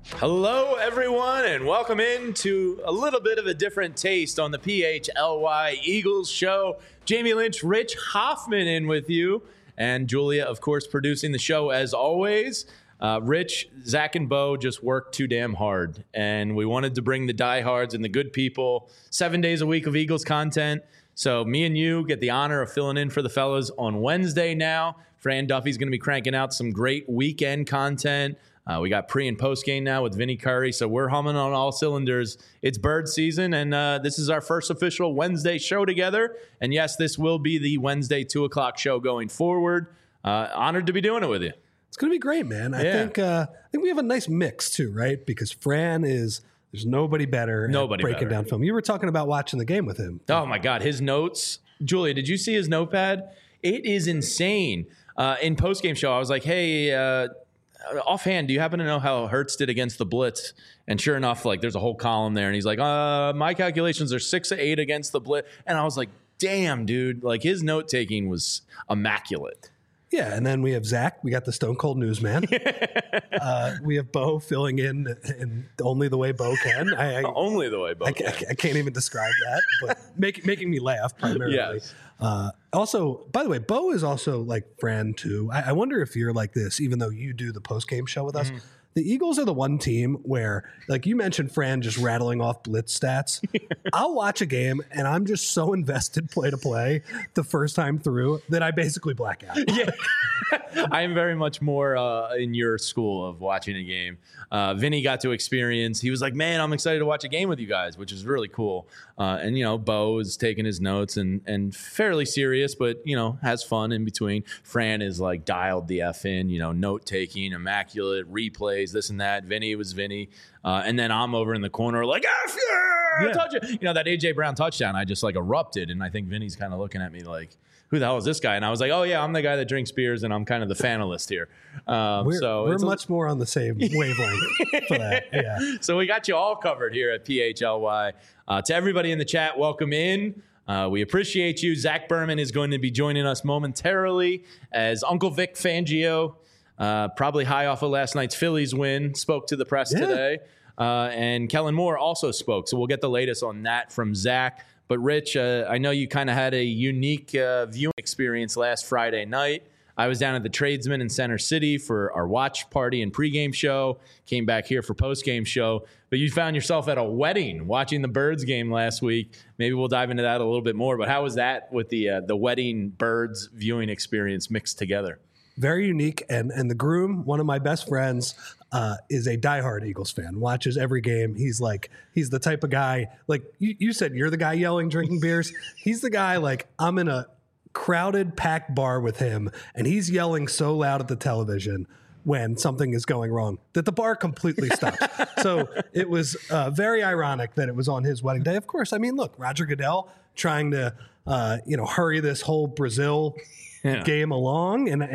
Hello, everyone, and welcome into a little bit of a different taste on the PHLY Eagles show. Jamie Lynch, Rich Hoffman in with you, and Julia, of course, producing the show as always. Rich, Zach, and Bo just worked too damn hard, and we wanted to bring the diehards and the good people 7 days a week of Eagles content. So me and you get the honor of filling in for the fellas on Wednesday now. Fran Duffy's going to be cranking out some great weekend content. We got pre and post game now with Vinny Curry, so we're humming on all cylinders. It's bird season, and this is our first official Wednesday show together. And yes, this will be the Wednesday 2 o'clock show going forward. Honored to be doing it with you. It's going to be great, man. I think we have a nice mix too, right? Because Fran there's nobody better at breaking down film. You were talking about watching the game with him. Oh my God, his notes. Julia, did you see his notepad? It is insane. In post game show, I was like, hey. Offhand, do you happen to know how Hurts did against the blitz? And sure enough, like there's a whole column there, and he's like, my calculations are 6 of 8 against the blitz. And I was like, damn, dude, like his note taking was immaculate. Yeah, and then we have Zach. We got the Stone Cold Newsman. We have Bo filling in only the way Bo can. Only the way Bo can. I can't even describe that, but making me laugh primarily. Yes. Also, by the way, Bo is also like Fran too. I wonder if you're like this, even though you do the post-game show with us. Mm-hmm. The Eagles are the one team where, like you mentioned, Fran just rattling off blitz stats. I'll watch a game and I'm just so invested play to play the first time through that I basically black out. Yeah, I am very much more in your school of watching a game. Vinny got to experience. He was like, "Man, I'm excited to watch a game with you guys," which is really cool. And you know, Bo is taking his notes and fairly serious, but you know, has fun in between. Fran is like dialed the F in, you know, note taking, immaculate replays. This and that. Vinny was Vinny. And then I'm over in the corner like, F yeah, touch it. You know, that A.J. Brown touchdown, I just like erupted. And I think Vinny's kind of looking at me like, who the hell is this guy? And I was like, oh, yeah, I'm the guy that drinks beers and I'm kind of the fanalist here. We're much more on the same wavelength for that. Yeah. So we got you all covered here at PHLY. To everybody in the chat, welcome in. We appreciate you. Zach Berman is going to be joining us momentarily as Uncle Vic Fangio, probably high off of last night's Phillies win, spoke to the press today. And Kellen Moore also spoke. So we'll get the latest on that from Zach. But Rich, I know you kind of had a unique viewing experience last Friday night. I was down at the Tradesman in Center City for our watch party and pregame show. Came back here for postgame show. But you found yourself at a wedding watching the Birds game last week. Maybe we'll dive into that a little bit more. But how was that with the wedding Birds viewing experience mixed together? Very unique. And the groom, one of my best friends, is a diehard Eagles fan, watches every game. He's the type of guy, like you said, you're the guy yelling, drinking beers. He's the guy, like, I'm in a crowded, packed bar with him, and he's yelling so loud at the television when something is going wrong that the bar completely stops. So it was very ironic that it was on his wedding day. Of course, I mean, look, Roger Goodell trying to hurry this whole Brazil game along, and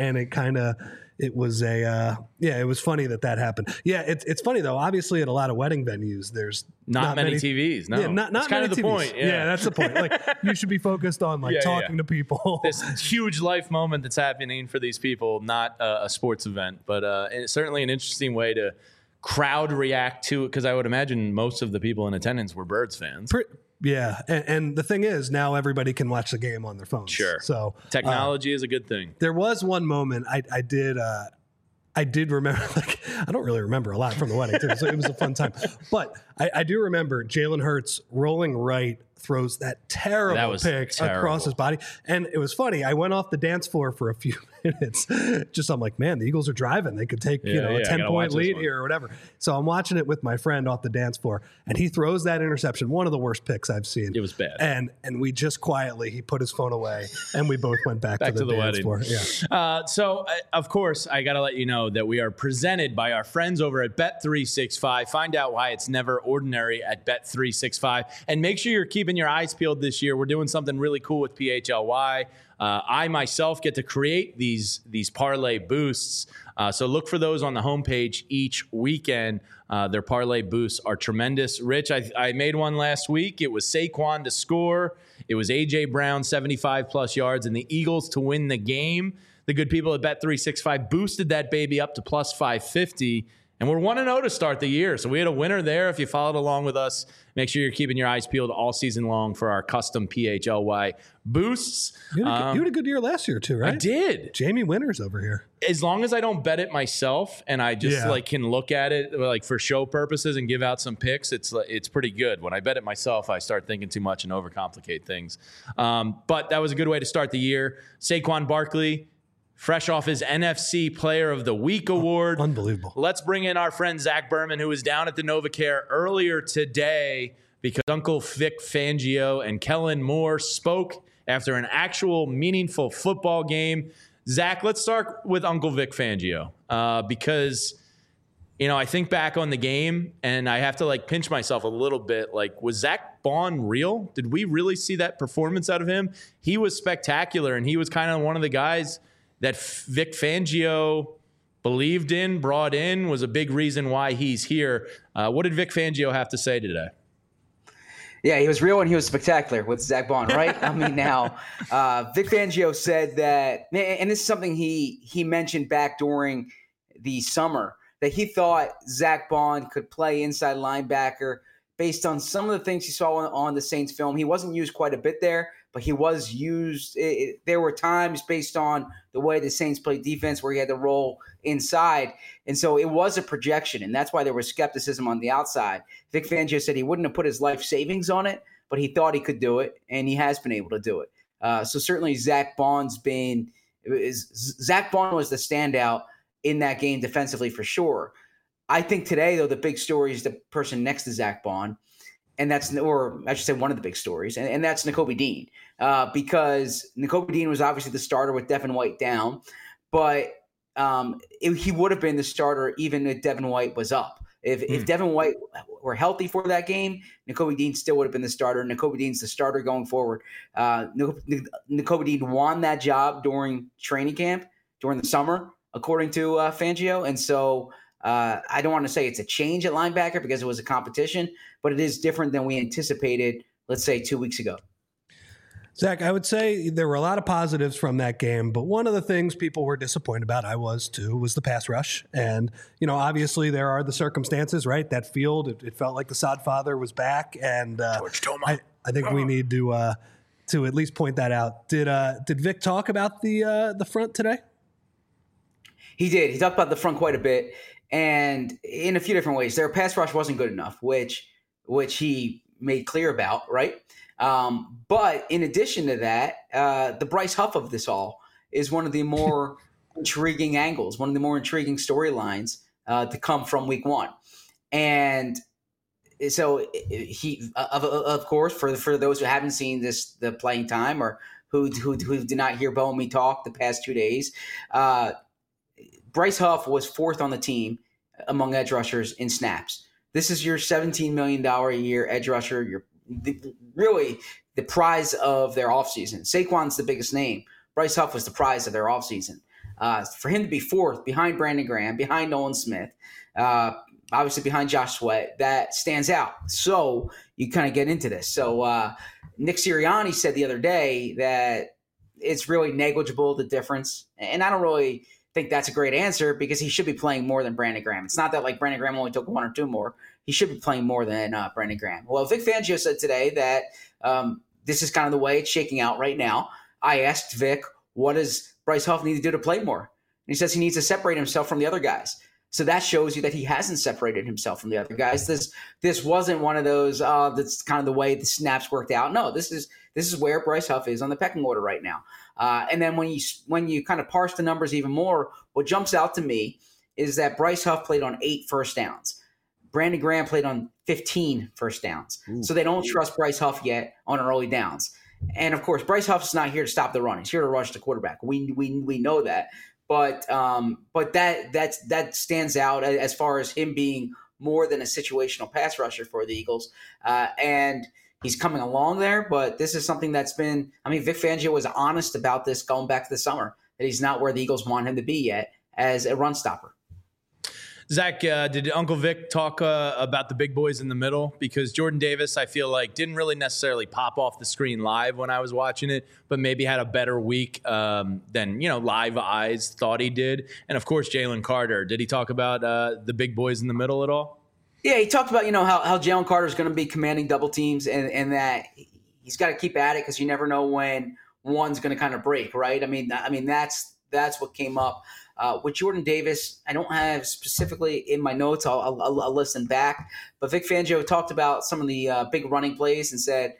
it was it was funny that happened. Yeah, it's funny though. Obviously, at a lot of wedding venues, there's not many TVs. No, not that's kind of the TVs. point. Yeah, that's the point. Like, you should be focused on talking to people. This huge life moment that's happening for these people, not a sports event, but it's certainly an interesting way to crowd react to it, because I would imagine most of the people in attendance were Birds fans. Yeah, and the thing is, now everybody can watch the game on their phones. Sure. So technology is a good thing. There was one moment I did remember, like, I don't really remember a lot from the wedding, too, so it was a fun time. But I do remember Jalen Hurts rolling right, throws that terrible pick across his body. And it was funny. I went off the dance floor for a few minutes. I'm like, man, the Eagles are driving. They could take a 10-point lead here or whatever. So I'm watching it with my friend off the dance floor, and he throws that interception, one of the worst picks I've seen. It was bad. And we just quietly, he put his phone away, and we both went back to the dance wedding floor. Yeah. So, of course, I got to let you know that we are presented by our friends over at Bet365. Find out why it's never ordinary at Bet365. And make sure you're keeping your eyes peeled this year. We're doing something really cool with PHLY. I myself get to create these parlay boosts. So look for those on the homepage each weekend. Their parlay boosts are tremendous. Rich, I made one last week. It was Saquon to score. It was A.J. Brown, 75-plus yards, and the Eagles to win the game. The good people at Bet365 boosted that baby up to plus 550. And we're 1-0 to start the year. So we had a winner there. If you followed along with us, make sure you're keeping your eyes peeled all season long for our custom PHLY boosts. You had a good year last year too, right? I did. Jamie Winters over here. As long as I don't bet it myself and I just can look at it like for show purposes and give out some picks, it's pretty good. When I bet it myself, I start thinking too much and overcomplicate things. But that was a good way to start the year. Saquon Barkley, fresh off his NFC Player of the Week award. Unbelievable. Let's bring in our friend Zach Berman, who was down at the NovaCare earlier today because Uncle Vic Fangio and Kellen Moore spoke after an actual meaningful football game. Zach, let's start with Uncle Vic Fangio because, I think back on the game and I have to pinch myself a little bit. Was Zach Baun real? Did we really see that performance out of him? He was spectacular, and he was kind of one of the guys that Vic Fangio believed in, brought in, was a big reason why he's here. What did Vic Fangio have to say today? Yeah, he was real and he was spectacular with Zach Baun, right? I mean, now, Vic Fangio said that, and this is something he mentioned back during the summer, that he thought Zach Baun could play inside linebacker based on some of the things he saw on the Saints film. He wasn't used quite a bit there, but he was used. There were times based on the way the Saints played defense where he had to roll inside. And so it was a projection, and that's why there was skepticism on the outside. Vic Fangio said he wouldn't have put his life savings on it, but he thought he could do it, and he has been able to do it. So certainly Zach Baun was the standout in that game defensively for sure. I think today, though, the big story is the person next to Zach Baun. And that's, or I should say, one of the big stories, and that's Nakobe Dean, because Nakobe Dean was obviously the starter with Devin White down, but he would have been the starter even if Devin White was up. If Devin White were healthy for that game, Nakobe Dean still would have been the starter. Nakobe Dean's the starter going forward. Nakobe Dean won that job during training camp, during the summer, according to Fangio, and so I don't want to say it's a change at linebacker because it was a competition, but it is different than we anticipated, let's say, 2 weeks ago. Zach, I would say there were a lot of positives from that game, but one of the things people were disappointed about, I was too, was the pass rush. And, obviously there are the circumstances, right? That field, it felt like the sod father was back. And I think we need to at least point that out. Did Vic talk about the front today? He did. He talked about the front quite a bit. And in a few different ways, their pass rush wasn't good enough, which he made clear about, right? But in addition to that, the Bryce Huff of this all is one of the more intriguing angles, one of the more intriguing storylines to come from week one. And so he, of course, for those who haven't seen the playing time or who did not hear Bo and me talk the past 2 days, Bryce Huff was fourth on the team among edge rushers in snaps. This is your $17 million a year edge rusher. You're really the prize of their offseason. Saquon's the biggest name. Bryce Huff was the prize of their offseason. For him to be fourth behind Brandon Graham, behind Nolan Smith, obviously behind Josh Sweat, that stands out. So you kind of get into this. So Nick Sirianni said the other day that it's really negligible, the difference. And I don't really think that's a great answer because he should be playing more than Brandon Graham. It's not that Brandon Graham only took one or two more. He should be playing more than Brandon Graham. Well, Vic Fangio said today that this is kind of the way it's shaking out right now. I asked Vic, what does Bryce Huff need to do to play more? And he says he needs to separate himself from the other guys. So that shows you that he hasn't separated himself from the other guys. This wasn't one of those, that's kind of the way the snaps worked out. No, this is where Bryce Huff is on the pecking order right now. And then when you kind of parse the numbers even more, what jumps out to me is that Bryce Huff played on 8 first downs. Brandon Graham played on 15 first downs. Ooh. So they don't trust Bryce Huff yet on early downs. And, of course, Bryce Huff's not here to stop the run. He's here to rush the quarterback. We know that. But that stands out as far as him being more than a situational pass rusher for the Eagles. And he's coming along there, but this is something that's been – Vic Fangio was honest about this going back to the summer, that he's not where the Eagles want him to be yet as a run stopper. Zach, did Uncle Vic talk about the big boys in the middle? Because Jordan Davis, I feel like, didn't really necessarily pop off the screen live when I was watching it, but maybe had a better week than, live eyes thought he did. And, of course, Jalen Carter. Did he talk about the big boys in the middle at all? Yeah, he talked about, how Jalen Carter is going to be commanding double teams and that he's got to keep at it because you never know when one's going to kind of break, right? I mean, that's what came up. With Jordan Davis, I don't have specifically in my notes. I'll listen back. But Vic Fangio talked about some of the big running plays and said,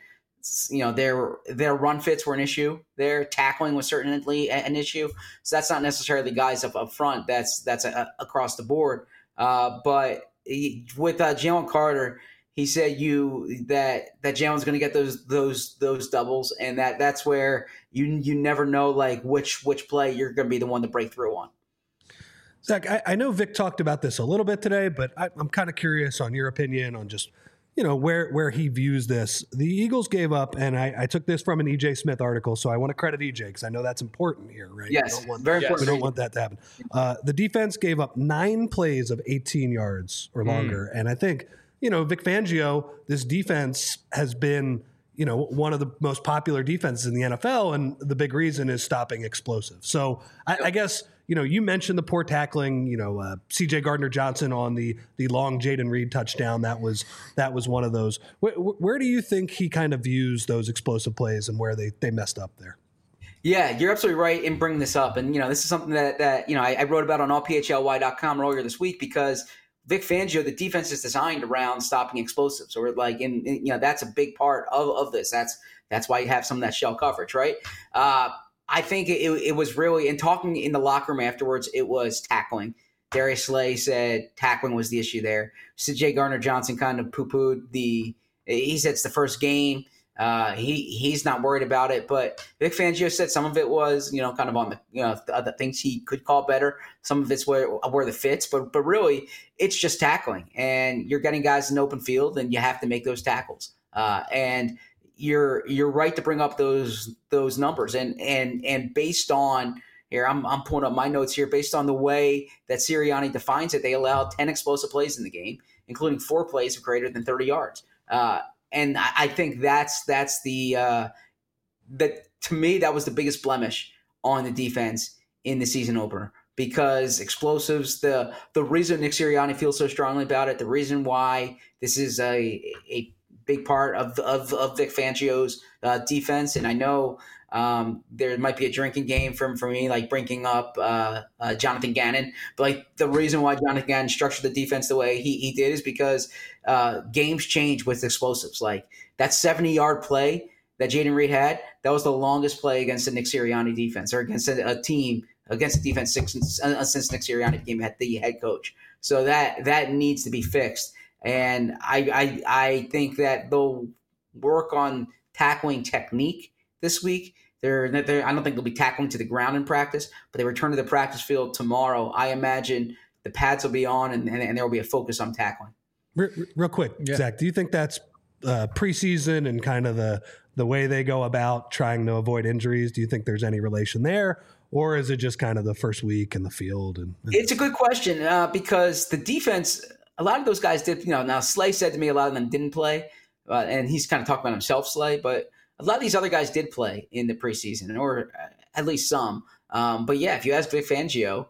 their run fits were an issue. Their tackling was certainly an issue. So that's not necessarily guys up front. That's across the board. But with Jalen Carter, he said that Jalen's going to get those doubles, and that's where you never know like which play you're going to be the one to break through on. Zach, I know Vic talked about this a little bit today, but I'm kind of curious on your opinion on just where he views this. The Eagles gave up, and I took this from an EJ Smith article, so I want to credit EJ because I know that's important here, right? Yes, very important. We don't want that to happen. The defense gave up 9 plays of 18 yards or longer, and I think Vic Fangio, this defense has been one of the most popular defenses in the NFL, and the big reason is stopping explosives. So I guess you mentioned the poor tackling. C.J. Gardner-Johnson on the long Jayden Reed touchdown. That was one of those. Where do you think he kind of views those explosive plays and where they messed up there? Yeah, you're absolutely right in bringing this up, and this is something that I wrote about on allphly.com earlier this week because Vic Fangio, the defense is designed around stopping explosives, or that's a big part of this. That's why you have some of that shell coverage, right? I think it was really, in talking in the locker room afterwards, it was tackling. Darius Slay said tackling was the issue there. C.J. Gardner-Johnson kind of poo-pooed he said it's the first game. He's not worried about it, but Vic Fangio said some of it was, kind of on the other things he could call better. Some of it's where the fits, but really it's just tackling, and you're getting guys in open field, and you have to make those tackles. And you're right to bring up those numbers, and based on here, I'm pulling up my notes here. Based on the way that Sirianni defines it, they allowed 10 explosive plays in the game, including 4 plays of greater than 30 yards. And I think that's that to me, that was the biggest blemish on the defense in the season opener, because explosives, the reason Nick Sirianni feels so strongly about it, the reason why this is a big part of Vic Fangio's defense. And I know there might be a drinking game for me, like bringing up Jonathan Gannon. But like the reason why Jonathan Gannon structured the defense the way he did is because games change with explosives. Like that 70-yard play that Jayden Reed had, that was the longest play against the Nick Sirianni defense, or against a team, against the defense since Nick Sirianni became the head coach. So that needs to be fixed. And I think that they'll work on tackling technique this week. I don't think they'll be tackling to the ground in practice, but they return to the practice field tomorrow. I imagine the pads will be on, and there will be a focus on tackling. Real quick, yeah. Zach, do you think that's preseason and kind of the way they go about trying to avoid injuries? Do you think there's any relation there? Or is it just kind of the first week in the field? It's a good question because the defense – a lot of those guys did, now Slay said to me a lot of them didn't play, and he's kind of talking about himself, Slay, but a lot of these other guys did play in the preseason, or at least some. But yeah, if you ask Vic Fangio,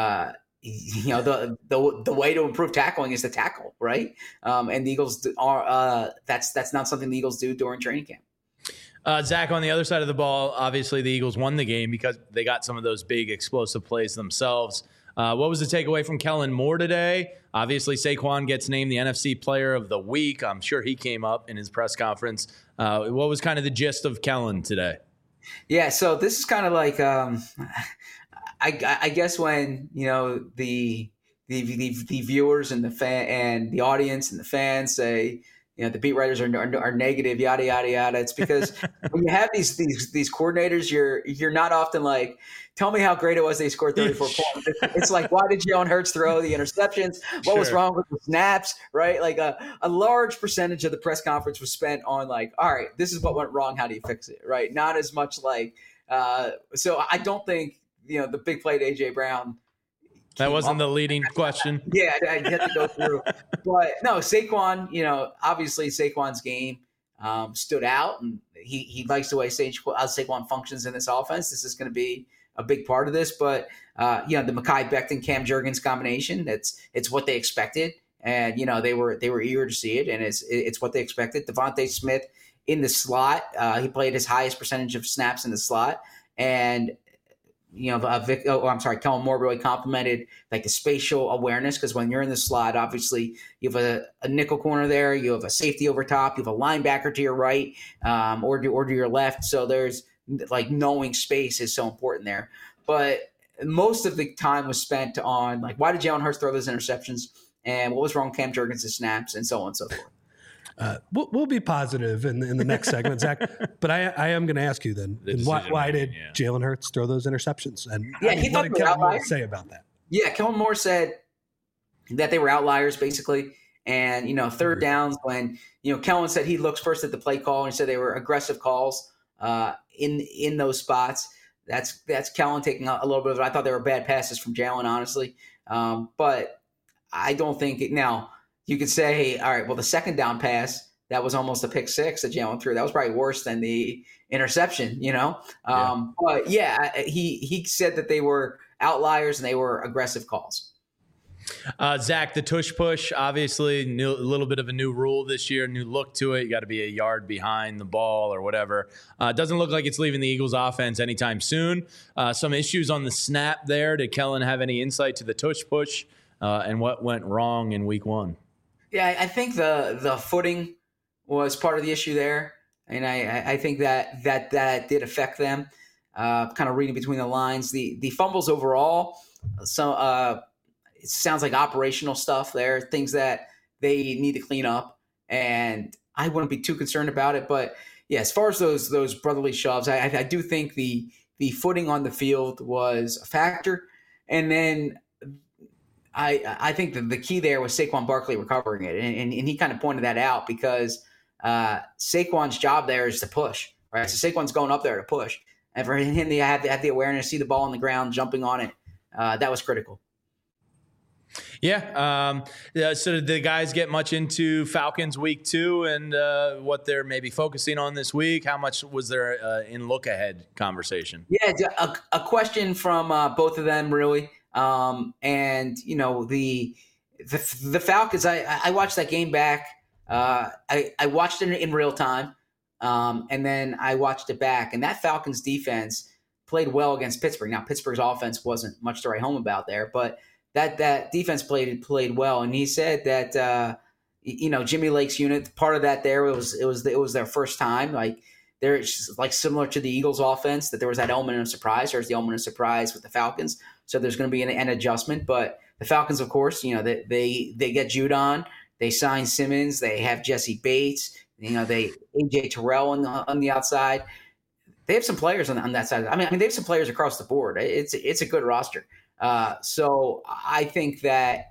the way to improve tackling is to tackle, right? And the Eagles are that's not something the Eagles do during training camp. Zach, on the other side of the ball, obviously the Eagles won the game because they got some of those big explosive plays themselves. What was the takeaway from Kellen Moore today? Obviously, Saquon gets named the NFC Player of the Week. I'm sure he came up in his press conference. What was kind of the gist of Kellen today? Yeah, so this is kind of like I guess when the viewers and the fan and the audience and the fans say the beat writers are negative, yada yada yada. It's because when you have these coordinators, you're not often like, tell me how great it was they scored 34 points. It's like, why did Jalen Hurts throw the interceptions? What was wrong with the snaps? Right? Like a large percentage of the press conference was spent on like, all right, this is what went wrong. How do you fix it? Right? Not as much like. So I don't think the big play to AJ Brown That wasn't the leading question. Yeah, I had to go through. But no, Saquon, obviously Saquon's game stood out, and he likes the way Saquon functions in this offense. This is going to be a big part of this. But, the Mekhi Becton, Cam Jurgens combination, it's what they expected. And, they were eager to see it, and it's what they expected. Devontae Smith in the slot, he played his highest percentage of snaps in the slot. And Kellen Moore really complimented like the spatial awareness, because when you're in the slot, obviously you have a nickel corner there, you have a safety over top, you have a linebacker to your right, or to your left. So there's like knowing space is so important there. But most of the time was spent on like, why did Jalen Hurts throw those interceptions, and what was wrong with Cam Jurgens' snaps, and so on and so forth. We'll be positive in the next segment, Zach. But I am going to ask you then, why did Jalen Hurts throw those interceptions? And he what did Kellen Moore say about that? Yeah, Kellen Moore said that they were outliers, basically. And, third downs, when, Kellen said he looks first at the play call, and he said they were aggressive calls in those spots. That's Kellen taking a little bit of it. I thought they were bad passes from Jalen, honestly. But I don't think – now – you could say, all right, well, the second down pass, that was almost a pick six that Jalen threw. That was probably worse than the interception, But, he said that they were outliers and they were aggressive calls. Zach, the tush push, obviously a little bit of a new rule this year, new look to it. You got to be a yard behind the ball or whatever. Doesn't look like it's leaving the Eagles offense anytime soon. Some issues on the snap there. Did Kellen have any insight to the tush push and what went wrong in week one? Yeah, I think the footing was part of the issue there, and I think that did affect them. Kind of reading between the lines, the fumbles overall. So it sounds like operational stuff there, things that they need to clean up, and I wouldn't be too concerned about it. But yeah, as far as those brotherly shoves, I do think the footing on the field was a factor, and then. I think that the key there was Saquon Barkley recovering it, and he kind of pointed that out, because Saquon's job there is to push, right? So Saquon's going up there to push, and for him to have the awareness, see the ball on the ground, jumping on it, that was critical. Yeah. So did the guys get much into Falcons week 2 and what they're maybe focusing on this week? How much was there in look ahead conversation? Yeah, a question from both of them, really. And the Falcons, I watched that game back. I watched it in real time. And then I watched it back, and that Falcons defense played well against Pittsburgh. Now, Pittsburgh's offense wasn't much to write home about there, but that defense played well. And he said that, Jimmy Lake's unit, part of that there, it was their first time. Like, they're like similar to the Eagles offense, that there was that element of surprise. There's the element of surprise with the Falcons. So there's going to be an adjustment. But the Falcons, of course, they get Judon. They sign Simmons. They have Jesse Bates. They AJ Terrell on the outside. They have some players on that side. I mean, they have some players across the board. It's a good roster. So I think that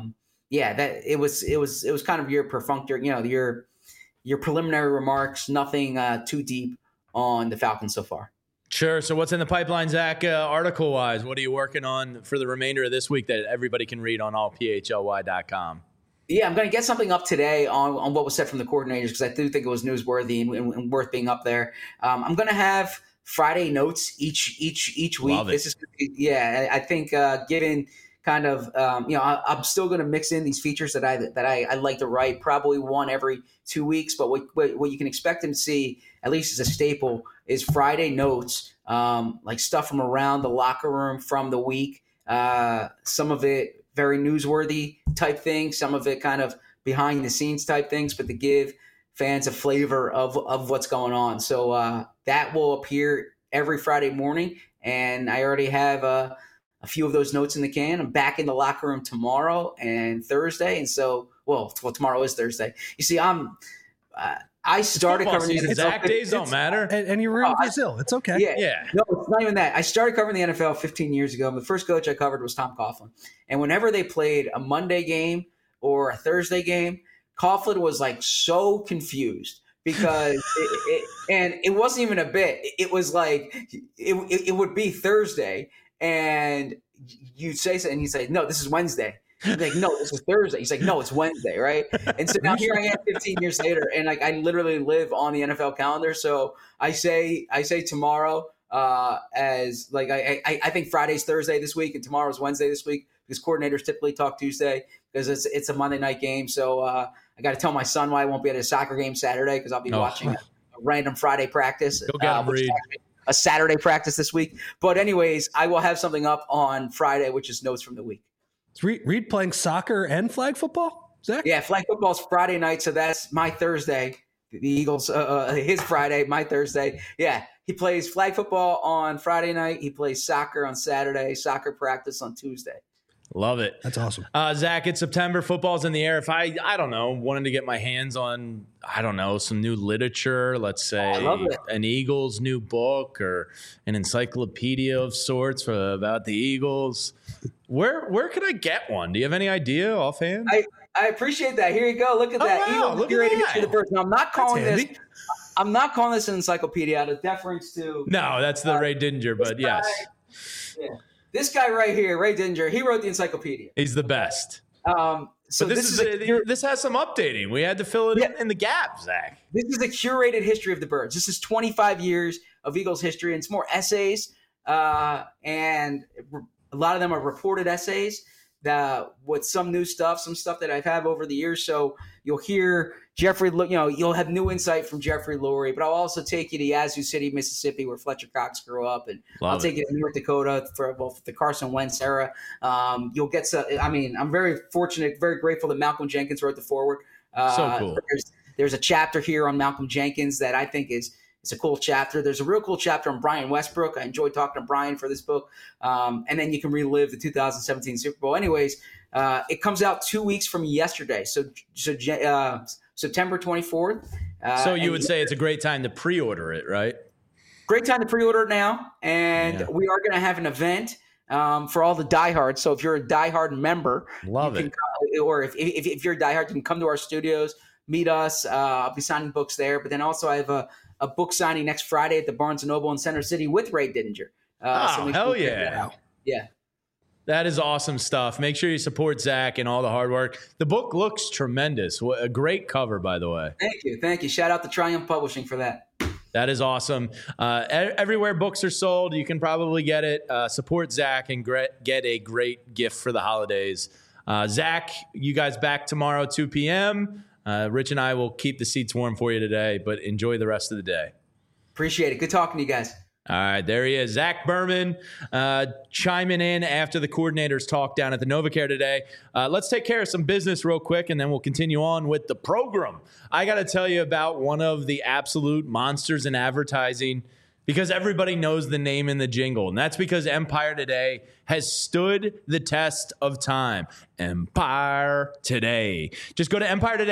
that it was kind of your perfunctory, your preliminary remarks. Nothing too deep on the Falcons so far. Sure. So what's in the pipeline, Zach, article-wise? What are you working on for the remainder of this week that everybody can read on allphly.com? Yeah, I'm going to get something up today on what was said from the coordinators, because I do think it was newsworthy and worth being up there. I'm going to have Friday notes each week. Love it. This is I think given kind of I'm still going to mix in these features that I like to write, probably one every 2 weeks. But what you can expect them to see, at least as a staple, is Friday notes, like stuff from around the locker room from the week. Some of it very newsworthy type things, some of it kind of behind the scenes type things, but to give fans a flavor of what's going on. So that will appear every Friday morning, and I already have a few of those notes in the can. I'm back in the locker room tomorrow and Thursday, and so well tomorrow is Thursday. You see, I started covering the exact days don't matter, and you were in Brazil. It's okay. Yeah. No, it's not even that. I started covering the NFL 15 years ago. The first coach I covered was Tom Coughlin, and whenever they played a Monday game or a Thursday game, Coughlin was like so confused because it wasn't even a bit. It was like it would be Thursday, and you say something and you say, no, this is Wednesday. He's like, no, this is Thursday. He's like, no, it's Wednesday, right? And so now here I am 15 years later, and like I literally live on the NFL calendar. So I say tomorrow as like I think Friday's Thursday this week and tomorrow's Wednesday this week because coordinators typically talk Tuesday because it's a Monday night game. So I got to tell my son why I won't be at a soccer game Saturday because I'll be watching a random Friday practice. Go get him, Reed. A Saturday practice this week. But anyways, I will have something up on Friday, which is notes from the week. Is Reed playing soccer and flag football, Zach? Yeah, flag football's Friday night, so that's my Thursday. The Eagles, his Friday, my Thursday. Yeah, he plays flag football on Friday night. He plays soccer on Saturday, soccer practice on Tuesday. Love it. That's awesome. Zach, it's September. Football's in the air. If I don't know, wanted to get my hands on, I don't know, some new literature, let's say an Eagles new book or an encyclopedia of sorts about the Eagles, where could I get one? Do you have any idea offhand? I appreciate that. Here you go. Look at that. Wow, Eagles curated history of the birds. Now, I'm not calling this an encyclopedia out of deference to. No, that's the Ray Didinger, but yes. Yeah. This guy right here, Ray Didinger, he wrote the encyclopedia. He's the best. So but this has some updating. We had to fill it in the gap, Zach. This is a curated history of the birds. This is 25 years of Eagles history, and it's more essays, and a lot of them are reported essays with some new stuff, some stuff that I've had over the years. So you'll hear Jeffrey, you'll have new insight from Jeffrey Lurie, but I'll also take you to Yazoo City, Mississippi, where Fletcher Cox grew up. And I'll take you to North Dakota for both the Carson Wentz era. You'll get I'm very fortunate, very grateful that Malcolm Jenkins wrote the foreword. So cool. There's a chapter here on Malcolm Jenkins that I think is a cool chapter. There's a real cool chapter on Brian Westbrook. I enjoyed talking to Brian for this book. And then you can relive the 2017 Super Bowl. Anyways, it comes out 2 weeks from yesterday. So September 24th. So you would say it's a great time to pre-order it, right? Great time to pre-order it now. And we are going to have an event for all the diehards. So if you're a diehard member, or if you're a diehard, you can come to our studios, meet us. I'll be signing books there. But then also I have a book signing next Friday at the Barnes & Noble in Center City with Ray Didinger. Hell yeah. Yeah. That is awesome stuff. Make sure you support Zach and all the hard work. The book looks tremendous. A great cover, by the way. Thank you. Shout out to Triumph Publishing for that. That is awesome. Everywhere books are sold, you can probably get it. Support Zach and get a great gift for the holidays. Zach, you guys back tomorrow, 2 p.m., Rich and I will keep the seats warm for you today, but enjoy the rest of the day. Appreciate it. Good talking to you guys. All right, there he is. Zach Berman chiming in after the coordinators talk down at the NovaCare today. Let's take care of some business real quick, and then we'll continue on with the program. I got to tell you about one of the absolute monsters in advertising because everybody knows the name in the jingle, and that's because Empire Today has stood the test of time. Empire Today. Just go to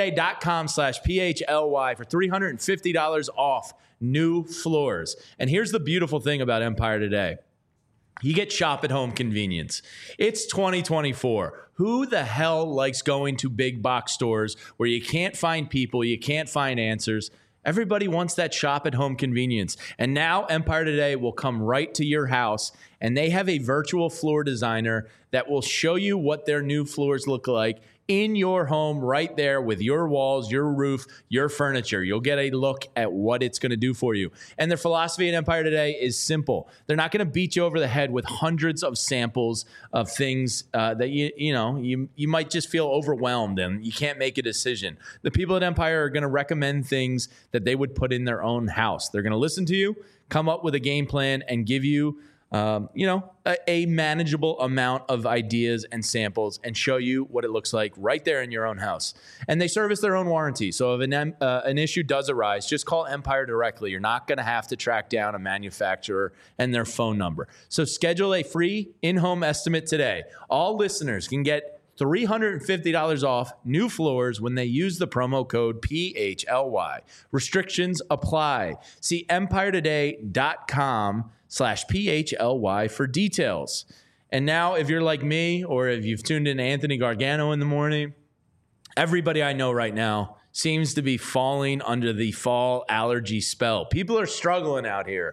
empiretoday.com/PHLY for $350 off new floors. And here's the beautiful thing about Empire Today. You get shop at home convenience. It's 2024. Who the hell likes going to big box stores where you can't find people, you can't find answers? Everybody wants that shop at home convenience. And now Empire Today will come right to your house, and they have a virtual floor designer that will show you what their new floors look like in your home right there with your walls, your roof, your furniture. You'll get a look at what it's going to do for you. And their philosophy at Empire Today is simple. They're not going to beat you over the head with hundreds of samples of things that you might just feel overwhelmed and you can't make a decision. The people at Empire are going to recommend things that they would put in their own house. They're going to listen to you, come up with a game plan, and give you a manageable amount of ideas and samples and show you what it looks like right there in your own house. And they service their own warranty. So if an issue does arise, just call Empire directly. You're not going to have to track down a manufacturer and their phone number. So schedule a free in-home estimate today. All listeners can get $350 off new floors when they use the promo code PHLY. Restrictions apply. See empiretoday.com/PHLY for details. And now, if you're like me, or if you've tuned in to Anthony Gargano in the morning, everybody I know right now seems to be falling under the fall allergy spell. People are struggling out here.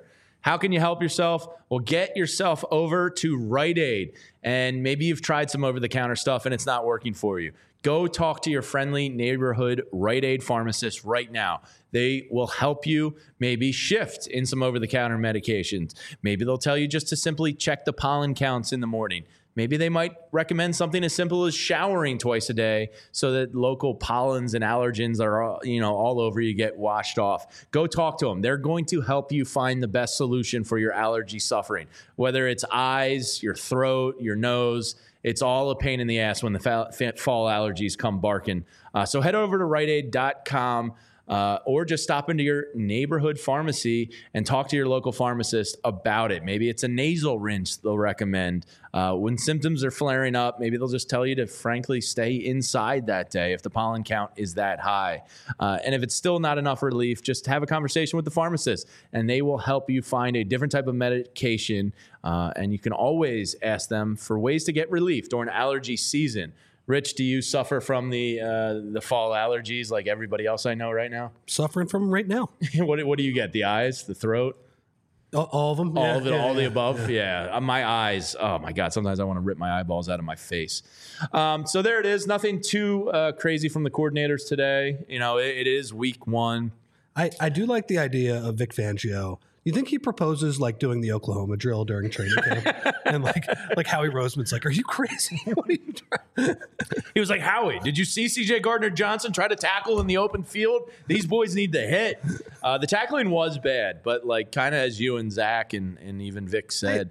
How can you help yourself? Well, get yourself over to Rite Aid. And maybe you've tried some over-the-counter stuff and it's not working for you. Go talk to your friendly neighborhood Rite Aid pharmacist right now. They will help you maybe shift in some over-the-counter medications. Maybe they'll tell you just to simply check the pollen counts in the morning. Maybe they might recommend something as simple as showering twice a day so that local pollens and allergens are all over you, get washed off. Go talk to them. They're going to help you find the best solution for your allergy suffering. Whether it's eyes, your throat, your nose, it's all a pain in the ass when the fall allergies come barking. So head over to riteaid.com. Or just stop into your neighborhood pharmacy and talk to your local pharmacist about it. Maybe it's a nasal rinse they'll recommend. When symptoms are flaring up, maybe they'll just tell you to frankly stay inside that day if the pollen count is that high. And if it's still not enough relief, just have a conversation with the pharmacist and they will help you find a different type of medication. And you can always ask them for ways to get relief during allergy season. Rich, do you suffer from the fall allergies like everybody else I know right now? Suffering from them right now. What do you get? The eyes, the throat? All of them? All the above? Yeah. My eyes, oh my God, sometimes I want to rip my eyeballs out of my face. So there it is. Nothing too crazy from the coordinators today. It is week 1. I do like the idea of Vic Fangio. You think he proposes like doing the Oklahoma drill during training camp? And like Howie Roseman's like, are you crazy? What are you trying? He was like, Howie, did you see C.J. Gardner-Johnson try to tackle in the open field? These boys need to hit. The tackling was bad, but like kind of as you and Zach and even Vic said,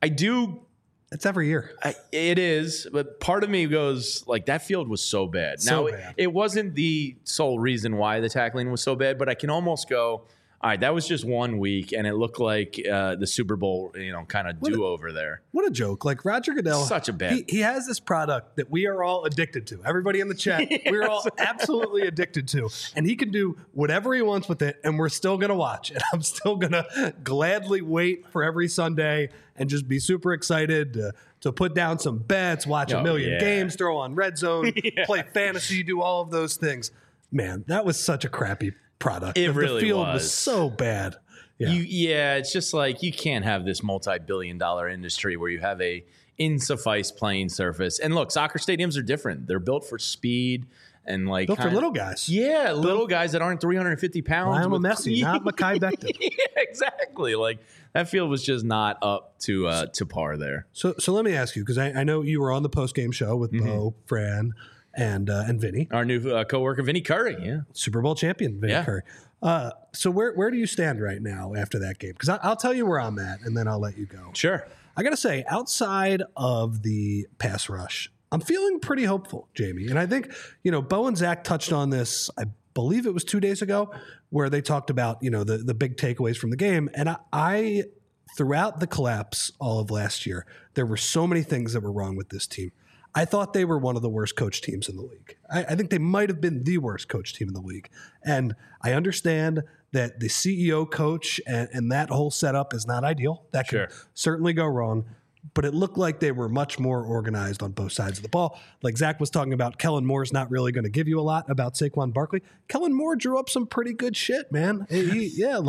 It's every year. It is, but part of me goes like that field was so bad. Bad. It wasn't the sole reason why the tackling was so bad, but I can almost go, all right, that was just 1 week, and it looked like the Super Bowl, kind of do-over there. What a joke. Like, Roger Goodell, such a bad. He has this product that we are all addicted to. Everybody in the chat, yes. We're all absolutely addicted to. And he can do whatever he wants with it, and we're still going to watch. And I'm still going to gladly wait for every Sunday and just be super excited to put down some bets, watch a million games, throw on Red Zone, play fantasy, do all of those things. Man, that was such a crappy product. It really the field was so bad. Yeah. It's just like you can't have this multi-billion-dollar industry where you have a insuffice playing surface. And look, soccer stadiums are different. They're built for speed and like built for little guys. Yeah, little guys that aren't 350 pounds. Lionel Messi, not Mekhi Becton. Yeah, exactly. Like that field was just not up to par there. So let me ask you, because I know you were on the post-game show with Bo, Fran, and Vinny, our new coworker Vinny Curry, Super Bowl champion Vinny Curry. So where do you stand right now after that game? Because I'll tell you where I'm at, and then I'll let you go. Sure. I got to say, outside of the pass rush, I'm feeling pretty hopeful, Jamie. And I think Bo and Zach touched on this. I believe it was 2 days ago, where they talked about the big takeaways from the game. And I throughout the collapse all of last year, there were so many things that were wrong with this team. I thought they were one of the worst coach teams in the league. I think they might have been the worst coach team in the league. And I understand that the CEO coach and that whole setup is not ideal. That could certainly go wrong. But it looked like they were much more organized on both sides of the ball. Like Zach was talking about, Kellen Moore's not really going to give you a lot about Saquon Barkley. Kellen Moore drew up some pretty good shit, man. Yeah,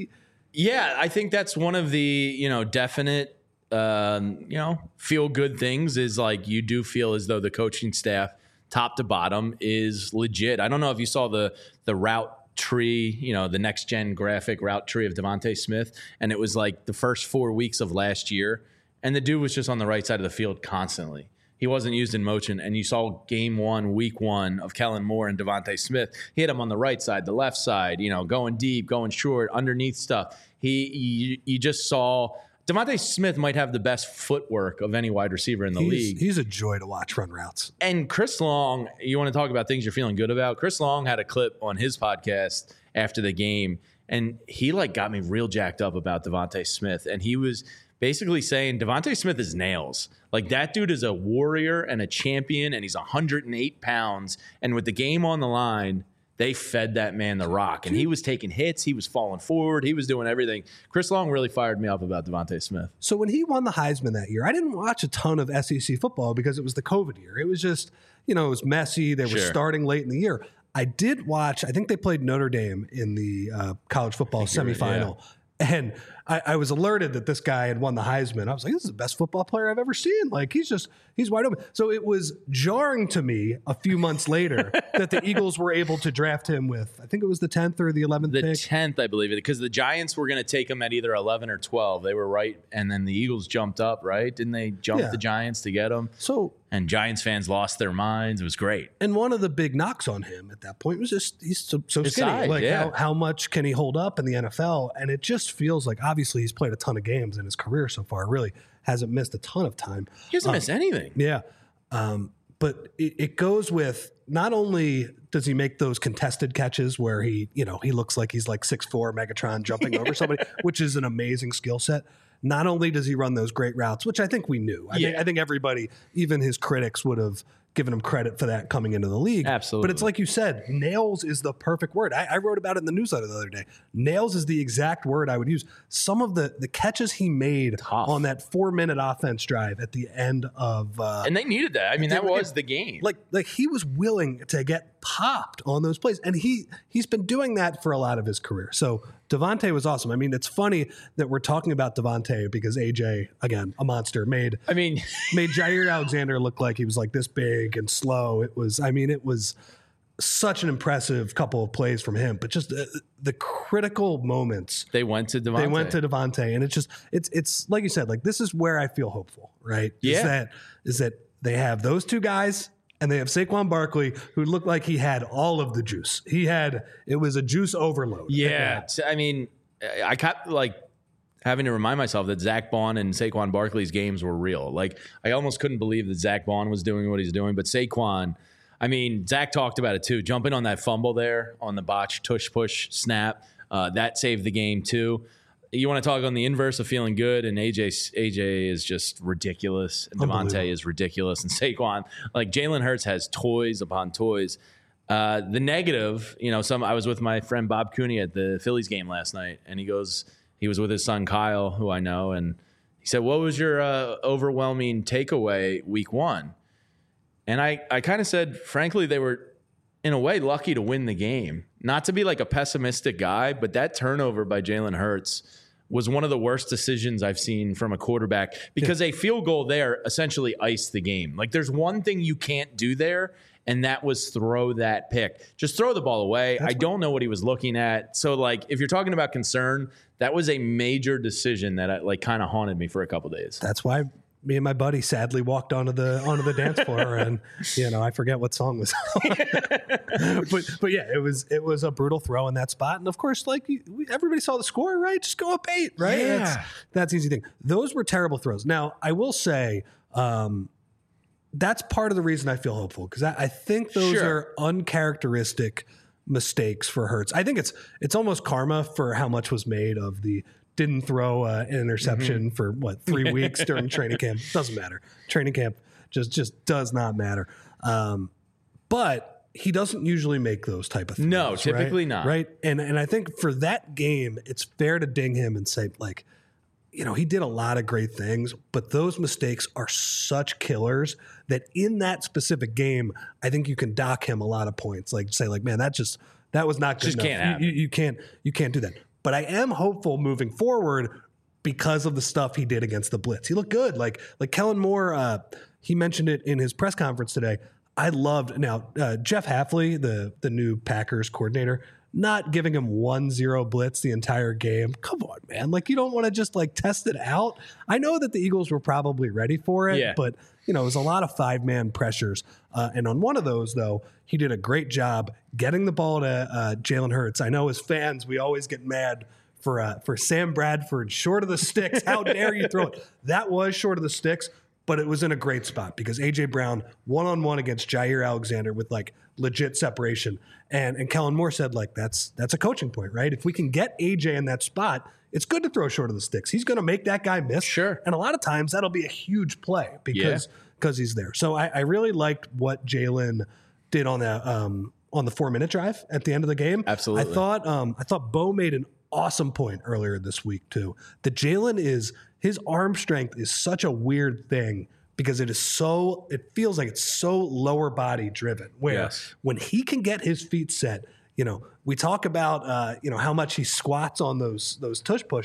I think that's one of the, definite feel good things is like you do feel as though the coaching staff top to bottom is legit. I don't know if you saw the route tree, the next gen graphic route tree of Devontae Smith. And it was like the first 4 weeks of last year. And the dude was just on the right side of the field constantly. He wasn't used in motion. And you saw game 1, week 1 of Kellen Moore and Devontae Smith. He had him on the right side, the left side, going deep, going short, underneath stuff. You just saw Devontae Smith might have the best footwork of any wide receiver in the league. He's a joy to watch run routes. And Chris Long, you want to talk about things you're feeling good about? Chris Long had a clip on his podcast after the game, and he got me real jacked up about Devontae Smith. And he was basically saying Devontae Smith is nails. Like that dude is a warrior and a champion, and he's 108 pounds. And with the game on the line, they fed that man the rock, and he was taking hits. He was falling forward. He was doing everything. Chris Long really fired me up about Devontae Smith. So when he won the Heisman that year, I didn't watch a ton of SEC football because it was the COVID year. It was just, it was messy. They were starting late in the year. I did watch, I think they played Notre Dame in the college football semifinal. And I was alerted that this guy had won the Heisman. I was like, this is the best football player I've ever seen. Like, he's wide open. So it was jarring to me a few months later that the Eagles were able to draft him with, I think it was the 10th or the 11th pick. The 10th, I believe, because the Giants were going to take him at either 11 or 12. They were right, and then the Eagles jumped up, right? Didn't they jump the Giants to get him? And Giants fans lost their minds. It was great. And one of the big knocks on him at that point was just he's so skinny. Size, like how much can he hold up in the NFL? And it just feels like obviously he's played a ton of games in his career so far. Really hasn't missed a ton of time. He hasn't missed anything. Yeah. But it goes with not only does he make those contested catches where he looks like he's like 6'4" Megatron jumping over somebody, which is an amazing skill set. Not only does he run those great routes, which I think we knew. I think everybody, even his critics, would have given him credit for that coming into the league. Absolutely. But it's like you said, nails is the perfect word. I wrote about it in the newsletter the other day. Nails is the exact word I would use. Some of the catches he made on that 4-minute offense drive at the end of... and they needed that. I mean, that was the game. Like he was willing to get popped on those plays. And he's been doing that for a lot of his career. So Devontae was awesome. I mean, it's funny that we're talking about Devontae because AJ, again, a monster, made Jair Alexander look like he was like this big and slow. It was such an impressive couple of plays from him, but just the critical moments. They went to Devontae. And it's like you said, like this is where I feel hopeful, right? Yeah. Is that they have those two guys and they have Saquon Barkley, who looked like he had all of the juice. It was a juice overload. Yeah. I mean, I kept like having to remind myself that Zach Bond and Saquon Barkley's games were real. Like I almost couldn't believe that Zach Bond was doing what he's doing, but Saquon, I mean, Zach talked about it too. Jumping on that fumble there on the botch tush push snap, that saved the game too. You want to talk on the inverse of feeling good, and AJ is just ridiculous, and Devontae is ridiculous, and Saquon, like Jalen Hurts has toys upon toys. The negative, I was with my friend Bob Cooney at the Phillies game last night, and he was with his son Kyle, who I know, and he said, "What was your overwhelming takeaway week one?" And I kind of said, frankly, they were in a way lucky to win the game. Not to be like a pessimistic guy, but that turnover by Jalen Hurts was one of the worst decisions I've seen from a quarterback, because a field goal there essentially iced the game. Like there's one thing you can't do there, and that was throw that pick. Just throw the ball away. I don't know what he was looking at. So like if you're talking about concern, that was a major decision that kind of haunted me for a couple days. That's why me and my buddy sadly walked onto the dance floor, and I forget what song was on. but yeah, it was a brutal throw in that spot, and of course, like everybody saw the score, right? Just go up 8, right? Yeah. That's easy thing. Those were terrible throws. Now I will say that's part of the reason I feel hopeful, because I think those are uncharacteristic mistakes for Hurts. I think it's almost karma for how much was made of the didn't throw an interception for 3 weeks during training camp. Doesn't matter. Training camp just does not matter. But he doesn't usually make those type of things. No, typically right? not. Right. And I think for that game, it's fair to ding him and say, like, he did a lot of great things, but those mistakes are such killers that in that specific game, I think you can dock him a lot of points. Like say, like, man, that was not good enough. Can't happen. You can't do that. But I am hopeful moving forward because of the stuff he did against the blitz. He looked good. Like Kellen Moore, he mentioned it in his press conference today. I loved Jeff Hafley, the new Packers coordinator, not giving him 1-0 blitz the entire game. Come on, man. Like, you don't want to just like test it out. I know that the Eagles were probably ready for it, but it was a lot of 5-man pressures. And on one of those, though, he did a great job getting the ball to Jalen Hurts. I know as fans, we always get mad for Sam Bradford short of the sticks. How dare you throw it? That was short of the sticks, but it was in a great spot because A.J. Brown one-on-one against Jair Alexander with like legit separation. And Kellen Moore said, like, that's a coaching point, right? If we can get A.J. in that spot, it's good to throw short of the sticks. He's going to make that guy miss. Sure. And a lot of times that'll be a huge play because he's there. So I really liked what Jalen did on the 4-minute drive at the end of the game. Absolutely. I thought Bo made an awesome point earlier this week too. That Jalen his arm strength is such a weird thing because it feels like it's so lower body driven. Where when he can get his feet set, we talk about how much he squats on those tush pushes.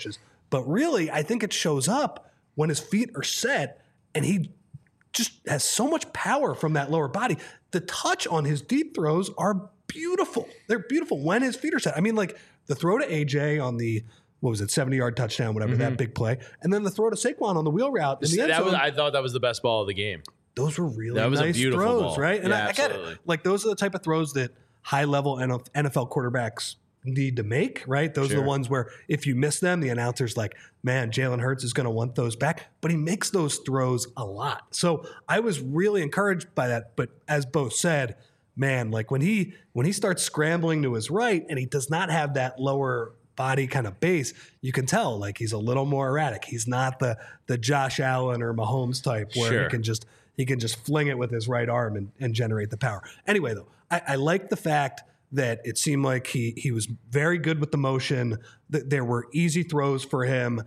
But really, I think it shows up when his feet are set and he just has so much power from that lower body. The touch on his deep throws are beautiful. They're beautiful when his feet are set. I mean, like the throw to AJ on the, 70-yard touchdown, whatever, that big play. And then the throw to Saquon on the wheel route in the end zone. I thought that was the best ball of the game. Those were really nice throws, ball. right? And yeah, I get it. Like those are the type of throws that high-level NFL quarterbacks need to make, right? Those are the ones where if you miss them, the announcer's like, man, Jalen Hurts is going to want those back. But he makes those throws a lot. So I was really encouraged by that. But as Bo said, man, like when he starts scrambling to his right and he does not have that lower body kind of base, you can tell like he's a little more erratic. He's not the Josh Allen or Mahomes type where he can just fling it with his right arm and generate the power. Anyway, though, I like the fact that it seemed like he was very good with the motion, that there were easy throws for him.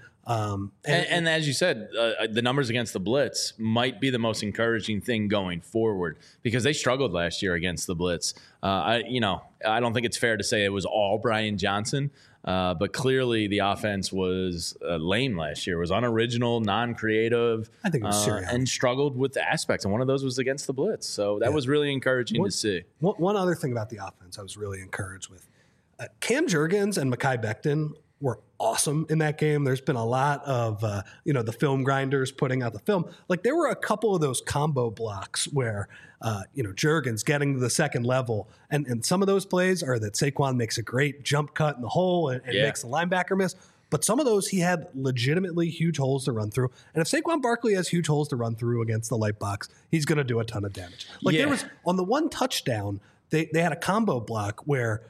And as you said, the numbers against the blitz might be the most encouraging thing going forward because they struggled last year against the blitz. I don't think it's fair to say it was all Brian Johnson, but clearly the offense was lame last year. It was unoriginal, non-creative, I think it was and struggled with the aspects. And one of those was against the blitz. So that was really encouraging to see. One other thing about the offense I was really encouraged with. Cam Jurgens and Mekhi Becton were awesome in that game. There's been a lot of, the film grinders putting out the film. Like there were a couple of those combo blocks where, Jurgens getting to the second level. And some of those plays are that Saquon makes a great jump cut in the hole and makes the linebacker miss. But some of those he had legitimately huge holes to run through. And if Saquon Barkley has huge holes to run through against the light box, he's going to do a ton of damage. Like there was on the one touchdown, they had a combo block where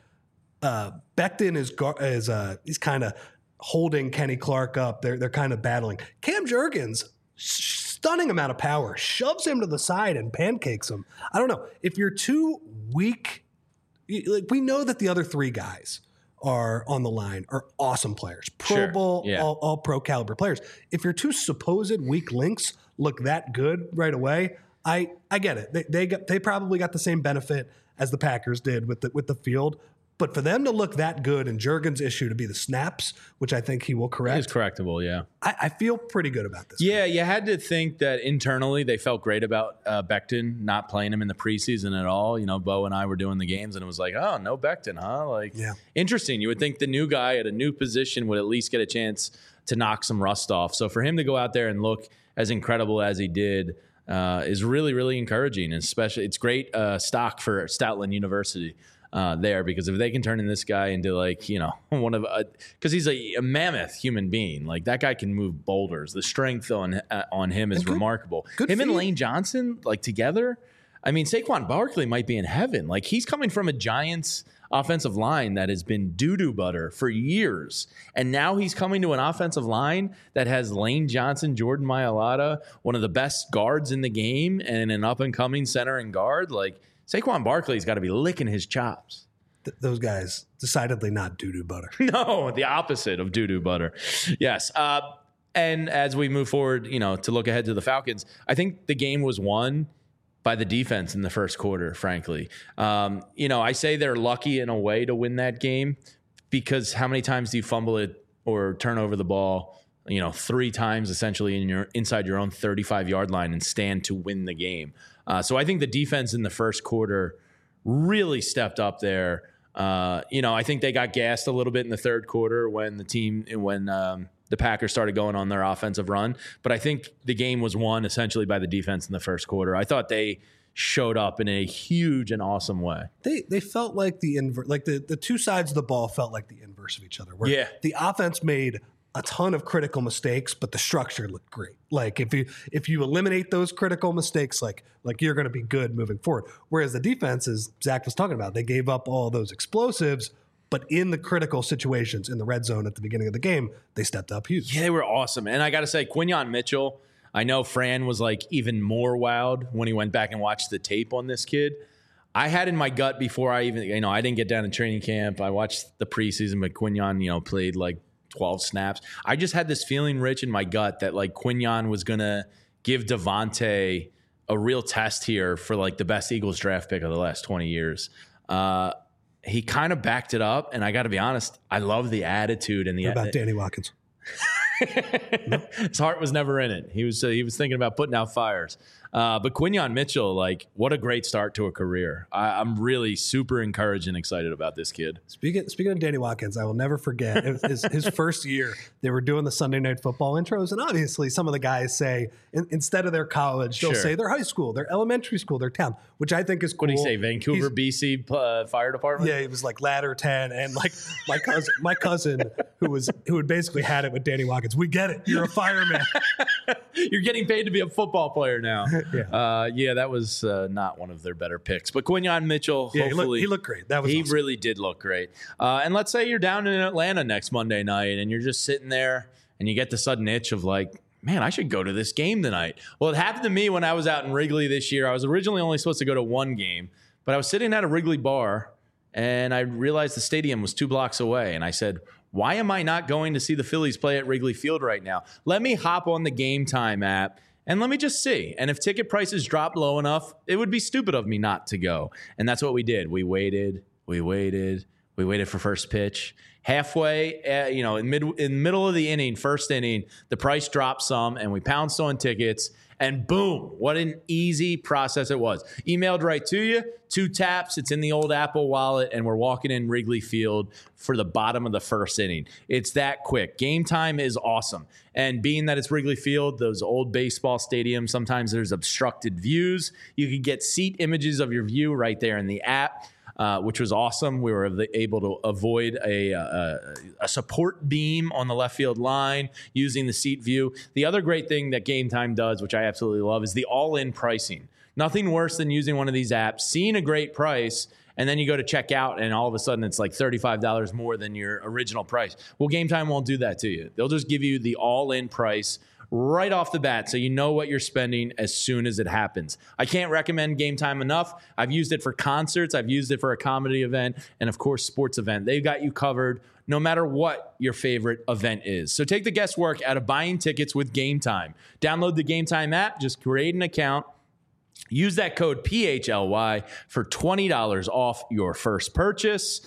Becton is he's kind of holding Kenny Clark up. They're kind of battling. Cam Jurgens, stunning amount of power, shoves him to the side and pancakes him. I don't know. If you're too weak, like we know that the other three guys are on the line are awesome players, Pro Bowl, all pro caliber players. If your two supposed weak links look that good right away, I get it. They probably got the same benefit as the Packers did with the field. But for them to look that good and Jurgens' issue to be the snaps, which I think he will correct. He's correctable, yeah. I feel pretty good about this. Yeah, you had to think that internally they felt great about Becton not playing him in the preseason at all. You know, Bo and I were doing the games and it was like, oh, no Becton, huh? Interesting. You would think the new guy at a new position would at least get a chance to knock some rust off. So for him to go out there and look as incredible as he did is really, really encouraging. And especially, it's great stock for Stoutland University. There, because if they can turn in this guy into one of because he's a mammoth human being, like that guy can move boulders. The strength on him is remarkable. Him and Lane Johnson like together. I mean, Saquon Barkley might be in heaven. Like he's coming from a Giants offensive line that has been doo-doo butter for years, and now he's coming to an offensive line that has Lane Johnson, Jordan Mailata, one of the best guards in the game, and an up and coming center and guard like. Saquon Barkley's got to be licking his chops. Those guys, decidedly not doo-doo butter. No, the opposite of doo-doo butter. Yes. And as we move forward, to look ahead to the Falcons, I think the game was won by the defense in the first quarter, frankly. I say they're lucky in a way to win that game because how many times do you fumble it or turn over the ball? 3 times essentially inside your own 35-yard line and stand to win the game. So I think the defense in the first quarter really stepped up there. I think they got gassed a little bit in the third quarter when the Packers started going on their offensive run. But I think the game was won essentially by the defense in the first quarter. I thought they showed up in a huge and awesome way. They felt like the two sides of the ball felt like the inverse of each other. Where the offense made a ton of critical mistakes, but the structure looked great. Like if you eliminate those critical mistakes, like you're going to be good moving forward. Whereas the defense, as Zach was talking about, they gave up all those explosives, but in the critical situations in the red zone at the beginning of the game, they stepped up huge. Yeah, they were awesome. And I got to say, Quinyon Mitchell, I know Fran was like even more wowed when he went back and watched the tape on this kid. I had in my gut before I even, I didn't get down to training camp. I watched the preseason, but Quinyon, played like 12 snaps. I just had this feeling, Rich, in my gut that like Quinyon was going to give Devontae a real test here for like the best Eagles draft pick of the last 20 years. He kind of backed it up. And I got to be honest, I love the attitude and What about Danny Watkins? His heart was never in it. He was thinking about putting out fires. But Quinyon Mitchell, like, what a great start to a career. I'm really super encouraged and excited about this kid. Speaking of Danny Watkins, I will never forget his first year. They were doing the Sunday Night Football intros, and obviously some of the guys say instead of their college, they'll say their high school, their elementary school, their town, which I think is cool. What do you say, Vancouver, BC Fire Department? Yeah, he was like ladder 10, and like my cousin who had basically had it with Danny Watkins. We get it. You're a fireman. You're getting paid to be a football player now. Yeah, that was not one of their better picks. But Quinyon Mitchell, hopefully. He looked great. That was awesome. Really did look great. And let's say you're down in Atlanta next Monday night and you're just sitting there and you get the sudden itch of like, man, I should go to this game tonight. Well, it happened to me when I was out in Wrigley this year. I was originally only supposed to go to one game, but I was sitting at a Wrigley bar and I realized the stadium was 2 blocks away. And I said, why am I not going to see the Phillies play at Wrigley Field right now? Let me hop on the Game Time app and let me just see. And if ticket prices drop low enough, it would be stupid of me not to go. And that's what we did. We waited for first pitch. Halfway, in middle of the inning, first inning, the price dropped some, and we pounced on tickets. And boom, what an easy process it was. Emailed right to you, 2 taps, it's in the old Apple Wallet, and we're walking in Wrigley Field for the bottom of the first inning. It's that quick. Game Time is awesome. And being that it's Wrigley Field, those old baseball stadiums, sometimes there's obstructed views. You can get seat images of your view right there in the app. Which was awesome. We were able to avoid a support beam on the left field line using the seat view. The other great thing that Game Time does, which I absolutely love, is the all-in pricing. Nothing worse than using one of these apps, seeing a great price, and then you go to check out, and all of a sudden it's like $35 more than your original price. Well, Game Time won't do that to you. They'll just give you the all-in price right off the bat, so you know what you're spending as soon as it happens. I can't recommend Game Time enough. I've used it for concerts. I've used it for a comedy event and, of course, sports event. They've got you covered no matter what your favorite event is. So take the guesswork out of buying tickets with Game Time. Download the Game Time app. Just create an account. Use that code PHLY for $20 off your first purchase.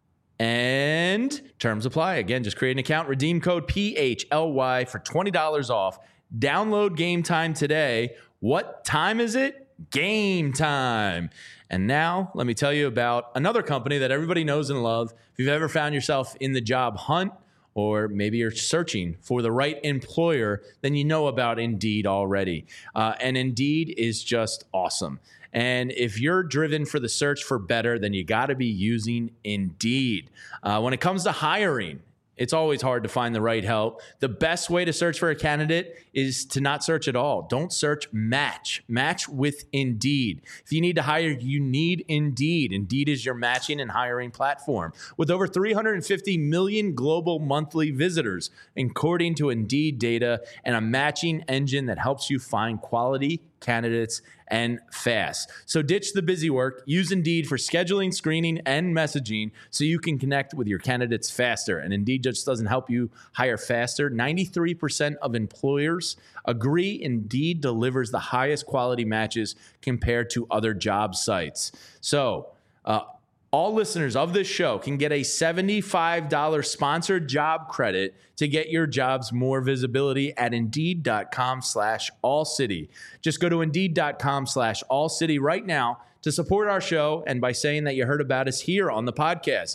And terms apply. Again, just create an account, redeem code PHLY for $20 off. Download Game Time today. What time is it? Game time. And now let me tell you about another company that everybody knows and loves. If you've ever found yourself in the job hunt, or maybe you're searching for the right employer, then you know about Indeed already. And Indeed is just awesome. And if you're driven for the search for better, then you got to be using Indeed. When it comes to hiring, it's always hard to find the right help. The best way to search for a candidate is to not search at all. Don't search, match. Match with Indeed. If you need to hire, you need Indeed. Indeed is your matching and hiring platform. With over 350 million global monthly visitors, according to Indeed data, and a matching engine that helps you find quality candidates and fast. So ditch the busy work. Use Indeed for scheduling, screening, and messaging so you can connect with your candidates faster. And Indeed just doesn't help you hire faster. 93% of employers agree Indeed delivers the highest quality matches compared to other job sites. So, all listeners of this show can get a $75 sponsored job credit to get your jobs more visibility at Indeed.com/AllCity. Just go to Indeed.com/AllCity right now to support our show, and by saying that you heard about us here on the podcast.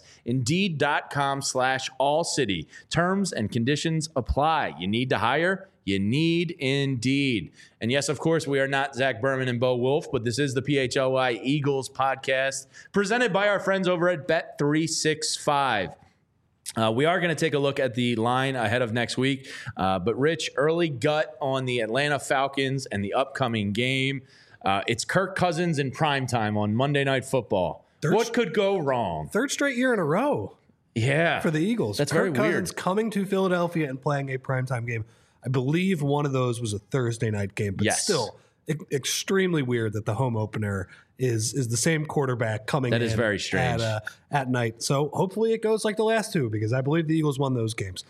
Indeed.com/AllCity. Terms and conditions apply. You need to hire? You need Indeed. And yes, of course, we are not Zach Berman and Bo Wolf, but this is the PHLY Eagles podcast presented by our friends over at Bet365. We are going to take a look at the line ahead of next week. But Rich, early gut on the Atlanta Falcons and the upcoming game. It's Kirk Cousins in primetime on Monday Night Football. What could go wrong? 3rd straight year in a row. Yeah. For the Eagles. That's Kirk very weird. Cousins coming to Philadelphia and playing a primetime game. I believe one of those was a Thursday night game, but still extremely weird that the home opener is the same quarterback coming in. That is very strange. At night. So hopefully it goes like the last two, because I believe the Eagles won those games.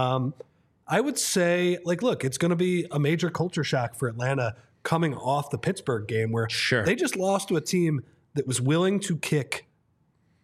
I would say, look, it's going to be a major culture shock for Atlanta coming off the Pittsburgh game where they just lost to a team that was willing to kick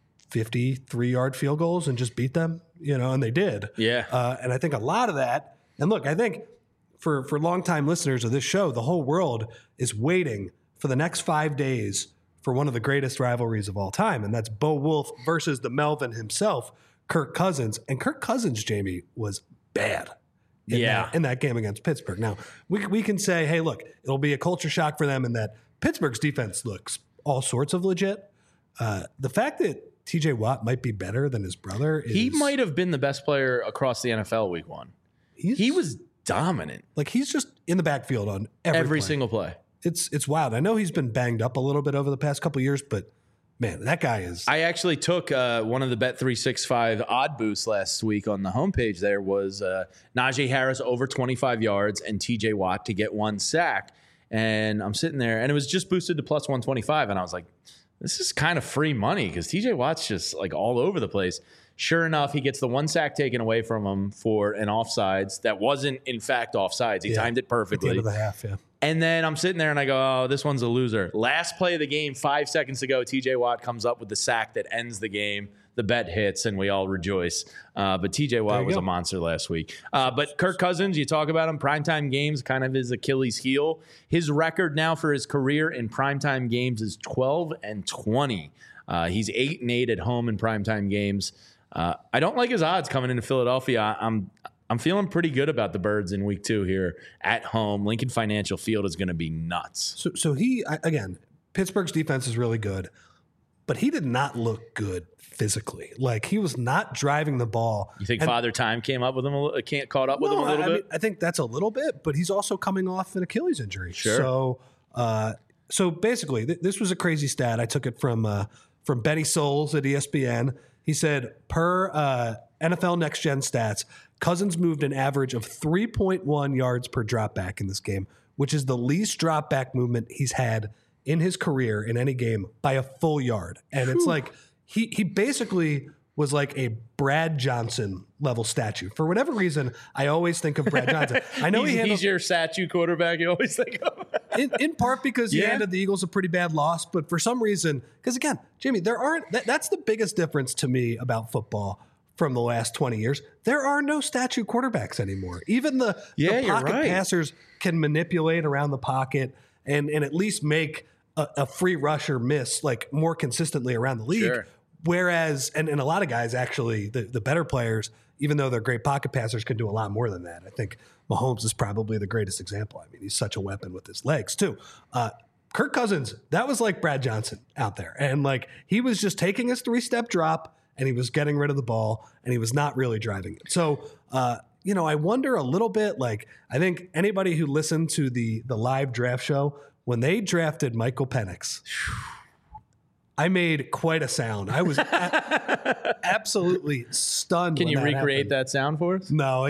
53-yard field goals and just beat them, and they did. Yeah. And I think a lot of that And look, I think for longtime listeners of this show, the whole world is waiting for the next 5 days for one of the greatest rivalries of all time, and that's Bo Wolf versus the Melvin himself, Kirk Cousins. And Kirk Cousins, Jamie, was bad in that game against Pittsburgh. Now, we can say, hey, look, it'll be a culture shock for them in that Pittsburgh's defense looks all sorts of legit. The fact that TJ Watt might be better than his brother is... He might have been the best player across the NFL week 1. He was dominant. Like, he's just in the backfield on every single play. It's wild. I know he's been banged up a little bit over the past couple of years, but man, that guy is... I actually took one of the Bet365 odd boosts last week on the homepage. There was Najee Harris over 25 yards and TJ Watt to get 1 sack. And I'm sitting there, and it was just boosted to plus 125. And I was like, this is kind of free money because TJ Watt's just like all over the place. Sure enough, he gets the 1 sack taken away from him for an offsides that wasn't, in fact, offsides. He timed it perfectly. At the end of the half, yeah. And then I'm sitting there and I go, oh, this one's a loser. Last play of the game, 5 seconds to go, TJ Watt comes up with the sack that ends the game. The bet hits and we all rejoice. But TJ Watt was a monster last week. But Kirk Cousins, you talk about him, primetime games, kind of his Achilles heel. His record now for his career in primetime games is 12-20. He's 8-8 at home in primetime games. I don't like his odds coming into Philadelphia. I'm feeling pretty good about the Birds in week 2 here at home. Lincoln Financial Field is going to be nuts. So again, Pittsburgh's defense is really good, but he did not look good physically. Like, he was not driving the ball. You think Father Time came up with him, caught up with him a little bit? Mean, I think that's a little bit, but he's also coming off an Achilles injury. Sure. So basically, this was a crazy stat. I took it from Benny Souls at ESPN. He said, per NFL Next Gen Stats, Cousins moved an average of 3.1 yards per drop back in this game, which is the least drop back movement he's had in his career in any game by a full yard. And it's like he basically was like a Brad Johnson level statue. For whatever reason, I always think of Brad Johnson. I know he's your statue quarterback you always think of. in part because he handed the Eagles a pretty bad loss, but for some reason, because again, Jamie, that's the biggest difference to me about football from the last 20 years. There are no statue quarterbacks anymore. Even the pocket passers can manipulate around the pocket and at least make a free rusher miss like more consistently around the league. Sure. Whereas, and a lot of guys actually, the better players, even though they're great pocket passers, can do a lot more than that. I think Mahomes is probably the greatest example. I mean, he's such a weapon with his legs too. Kirk Cousins, that was like Brad Johnson out there. And like, he was just taking his 3-step drop and he was getting rid of the ball and he was not really driving it. So, I wonder a little bit, like, I think anybody who listened to the live draft show, when they drafted Michael Penix, I made quite a sound. I was absolutely stunned. Can you recreate that sound for us? No,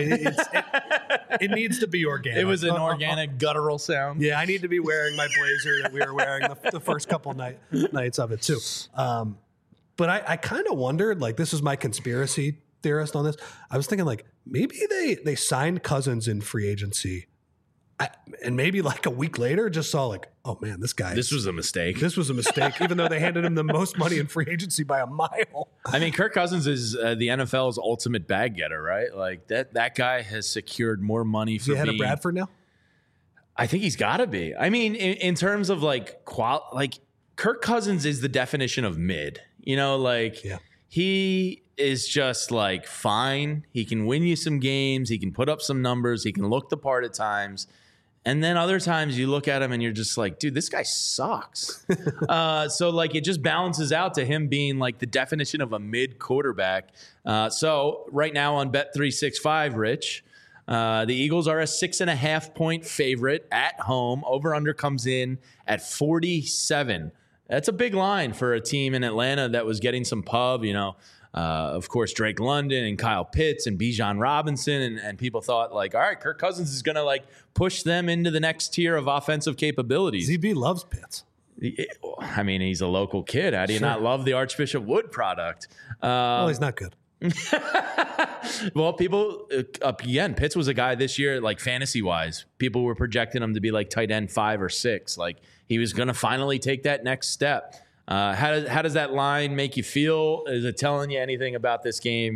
it needs to be organic. It was an organic, guttural sound. Yeah, I need to be wearing my blazer that we were wearing the first couple nights of it too. But I kind of wondered, like, this is my conspiracy theorist on this. I was thinking, like, maybe they signed Cousins in free agency. And maybe like a week later just saw like, oh man, this was a mistake. This was a mistake, even though they handed him the most money in free agency by a mile. I mean, Kirk Cousins is the NFL's ultimate bag getter, right? Like that guy has secured more money for being... Is he ahead of Bradford now? I think he's got to be. I mean, in terms of like Kirk Cousins is the definition of mid. He is just like fine. He can win you some games. He can put up some numbers. He can look the part at times. And then other times you look at him and you're just like, dude, this guy sucks. So like it just balances out to him being like the definition of a mid quarterback. So right now on Bet365, Rich, the Eagles are a 6.5-point favorite at home. Over under comes in at 47. That's a big line for a team in Atlanta that was getting some pub, of course, Drake London and Kyle Pitts and Bijan Robinson. And people thought like, all right, Kirk Cousins is going to like push them into the next tier of offensive capabilities. ZB loves Pitts. I mean, he's a local kid. How do you not love the Archbishop Wood product? Well, he's not good. Well, people, again, Pitts was a guy this year, like fantasy-wise, people were projecting him to be like tight end 5 or 6. Like he was going to finally take that next step. How does that line make you feel? Is it telling you anything about this game?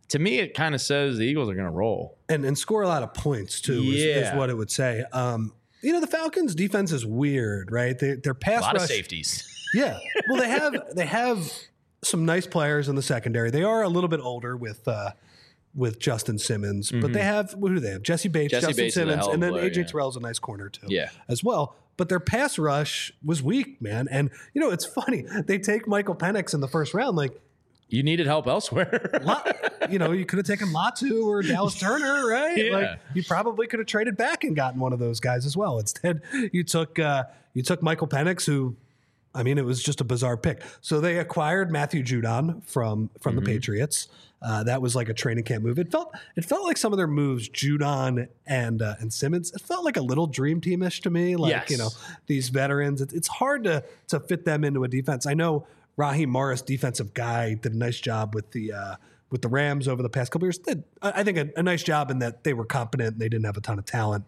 to me, it kind of says the Eagles are going to roll. And score a lot of points, too, is what it would say. The Falcons' defense is weird, right? Their pass rush. A lot of safeties. Yeah. Well, they have some nice players in the secondary. They are a little bit older with Justin Simmons, but they have, who do they have? Jesse Bates, Justin Simmons, and then AJ Terrell's a nice corner too, as well. But their pass rush was weak, man. And it's funny. They take Michael Penix in the first round. Like, you needed help elsewhere. You could have taken Latu or Dallas Turner, right? Yeah. Like, you probably could have traded back and gotten one of those guys as well. Instead, you took Michael Penix, who, I mean, it was just a bizarre pick. So they acquired Matthew Judon from the Patriots. That was like a training camp move. It felt like some of their moves, Judon and Simmons, it felt like a little dream teamish to me. Like, these veterans, it's hard to fit them into a defense. I know Raheem Morris, defensive guy, did a nice job with the Rams over the past couple years. Did, I think, a nice job in that they were competent and they didn't have a ton of talent.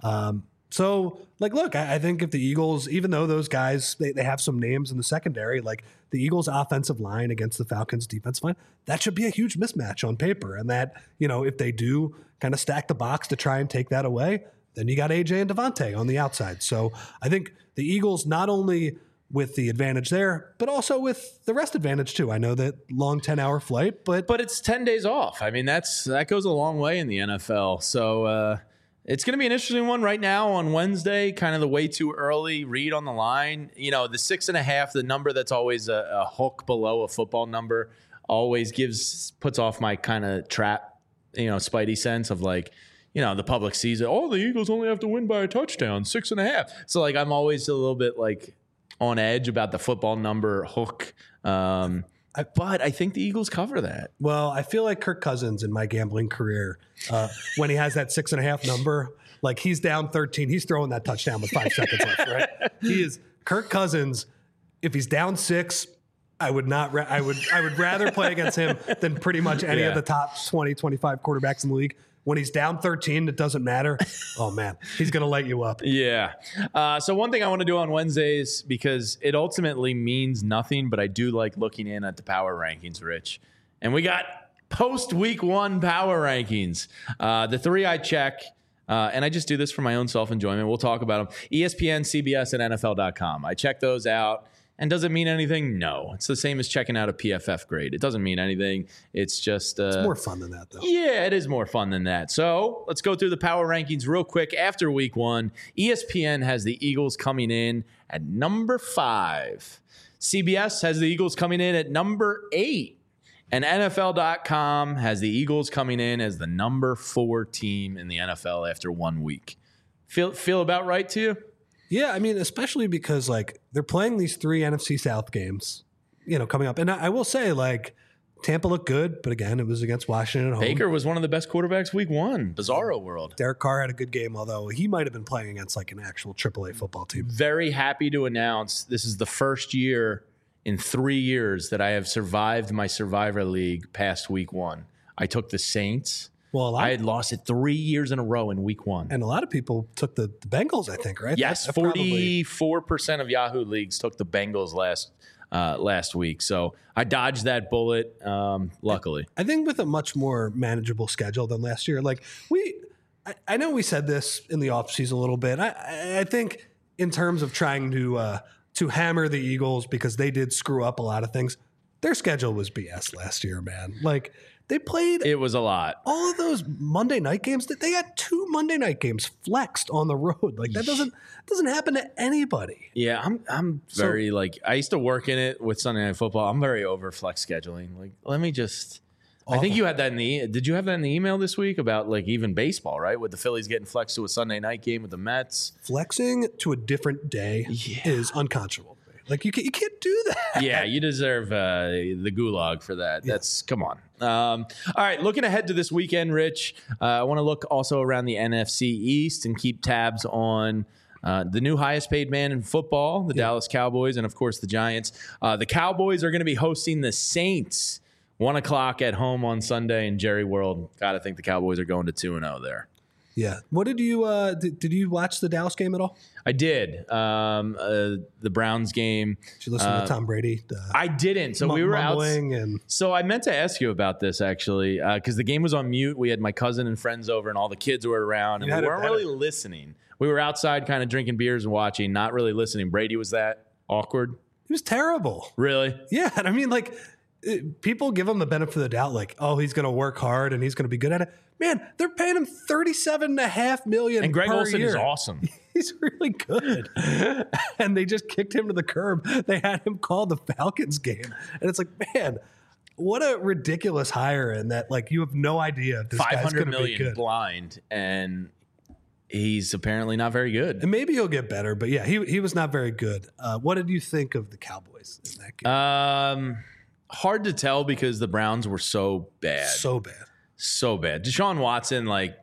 So, look, I think if the Eagles, even though those guys, they have some names in the secondary, like the Eagles' offensive line against the Falcons' defensive line, that should be a huge mismatch on paper. And that, if they do kind of stack the box to try and take that away, then you got AJ and Devontae on the outside. So I think the Eagles, not only with the advantage there, but also with the rest advantage too. I know that long 10-hour flight, but it's 10 days off. I mean, that goes a long way in the NFL. So it's going to be an interesting one right now on Wednesday, kind of the way too early read on the line. The 6.5, the number that's always a hook below a football number, always puts off my kind of trap, spidey sense of like, the public sees it. Oh, the Eagles only have to win by a touchdown, 6.5. So I'm always a little bit on edge about the football number hook. But I think the Eagles cover that. Well, I feel like Kirk Cousins in my gambling career, when he has that 6.5 number, like he's down 13, he's throwing that touchdown with 5 seconds left, right? He is Kirk Cousins. If he's down 6, I would rather play against him than pretty much any of the top 20, 25 quarterbacks in the league. When he's down 13, it doesn't matter. Oh, man, he's going to light you up. Yeah. So one thing I want to do on Wednesdays, because it ultimately means nothing, but I do like looking in at the power rankings, Rich. And we got post-week 1 power rankings. The 3 I check, and I just do this for my own self-enjoyment. We'll talk about them. ESPN, CBS, and NFL.com. I check those out. And does it mean anything? No. It's the same as checking out a PFF grade. It doesn't mean anything. It's just... it's more fun than that, though. Yeah, it is more fun than that. So let's go through the power rankings real quick. After week 1, ESPN has the Eagles coming in at number 5. CBS has the Eagles coming in at number 8. And NFL.com has the Eagles coming in as the number 4 team in the NFL after 1 week. Feel about right to you? Yeah, I mean, especially because they're playing these 3 NFC South games, coming up. And I will say, Tampa looked good, but again, it was against Washington at home. Baker was one of the best quarterbacks week 1. Bizarro world. Derek Carr had a good game, although he might have been playing against an actual AAA football team. Very happy to announce this is the first year in 3 years that I have survived my Survivor League past week 1. I took the Saints. Well, I had lost it 3 years in a row in week 1. And a lot of people took the Bengals, I think, right? Yes, 44% of Yahoo leagues took the Bengals last week. So I dodged that bullet, luckily. I think with a much more manageable schedule than last year. I know we said this in the offseason a little bit. I think in terms of trying to hammer the Eagles because they did screw up a lot of things, their schedule was BS last year, man. They played. It was a lot. All of those Monday night games. They had 2 Monday night games flexed on the road. That doesn't happen to anybody. Yeah, I'm very I used to work in it with Sunday Night Football. I'm very over flex scheduling. Let me just. Awful. I think you had that Did you have that in the email this week about even baseball, right? With the Phillies getting flexed to a Sunday night game with the Mets. Flexing to a different day is unconscionable. You can't do that. Yeah, you deserve the gulag for that. Yeah. Come on. All right, looking ahead to this weekend, Rich, I want to look also around the NFC East and keep tabs on the new highest paid man in football, the Dallas Cowboys, and, of course, the Giants. The Cowboys are going to be hosting the Saints 1 o'clock at home on Sunday in Jerry World. Got to think the Cowboys are going to 2-0 there. Yeah. What did you did you watch the Dallas game at all? I did. The Browns game. Did you listen to Tom Brady? I didn't. So we were out. And So I meant to ask you about this actually, because the game was on mute. We had my cousin and friends over, and all the kids were around, and we weren't really listening. We were outside, kind of drinking beers and watching, not really listening. Brady, was that awkward? It was terrible. Really? Yeah. And I mean, like, people give him the benefit of the doubt, like, oh, he's going to work hard and he's going to be good at it. Man, they're paying him $37.5 million And Greg per Olsen year. is awesome. He's really good. And they just kicked him to the curb. They had him call the Falcons game. And it's like, man, what a ridiculous hire. And that, like, you have no idea if this guy's going to be good. Blind, and he's apparently not very good. And maybe he'll get better. But yeah, he was not very good. What did you think of the Cowboys in that game? Hard to tell because the Browns were so bad. So bad. So bad. Deshaun Watson, like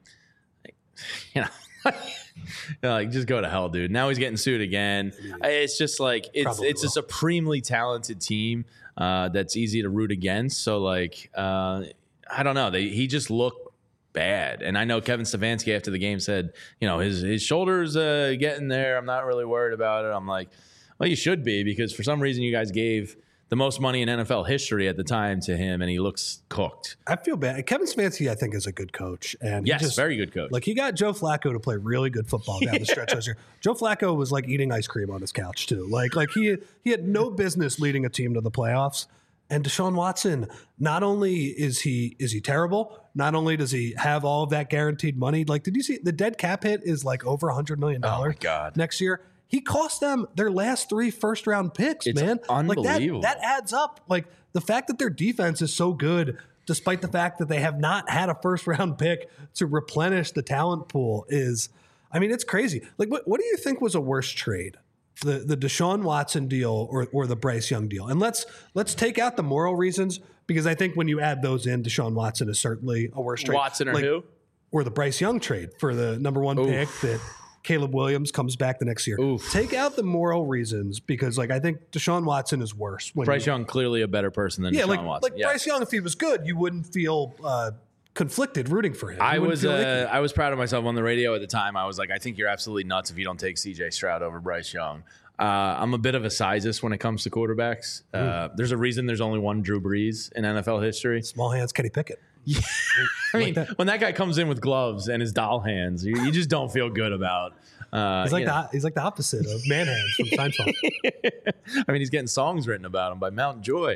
just go to hell, dude. Now he's getting sued again. It's just like it's a supremely talented team that's easy to root against. So like I don't know. He just looked bad. And I know Kevin Stefanski after the game said, his shoulders getting there. I'm not really worried about it. I'm like, well, you should be, because for some reason you guys gave the most money in NFL history at the time to him, and he looks cooked. I feel bad. Kevin Stefanski, I think, is a good coach. And yes, very good coach. Like, he got Joe Flacco to play really good football down the stretch last year. Joe Flacco was like eating ice cream on his couch too. Like he had no business leading a team to the playoffs. And Deshaun Watson, not only is he terrible, not only does he have all of that guaranteed money. Like, did you see the dead cap hit is like over $100 million next year? He cost them their last 3 first-round picks, man. Unbelievable. Like that adds up. Like, the fact that their defense is so good, despite the fact that they have not had a first-round pick to replenish the talent pool, is, I mean, it's crazy. Like, what do you think was a worse trade? The Deshaun Watson deal or the Bryce Young deal? And let's take out the moral reasons, because I think when you add those in, Deshaun Watson is certainly a worse trade. Watson or who? Or the Bryce Young trade for the number 1 pick that Caleb Williams comes back the next year. Take out the moral reasons, because like I think Deshaun Watson is worse. Bryce Young clearly a better person than Deshaun Watson. Like Bryce Young, if he was good, you wouldn't feel conflicted rooting for him. I was proud of myself on the radio at the time. I was like, I think you're absolutely nuts if you don't take CJ Stroud over Bryce Young. I'm a bit of a sizeist when it comes to quarterbacks. There's a reason there's only one Drew Brees in NFL history. Small hands, Kenny Pickett. Yeah. I mean, when that guy comes in with gloves and his doll hands, you just don't feel good about. He's like the opposite of man hands from Seinfeld. I mean, he's getting songs written about him by Mount Joy.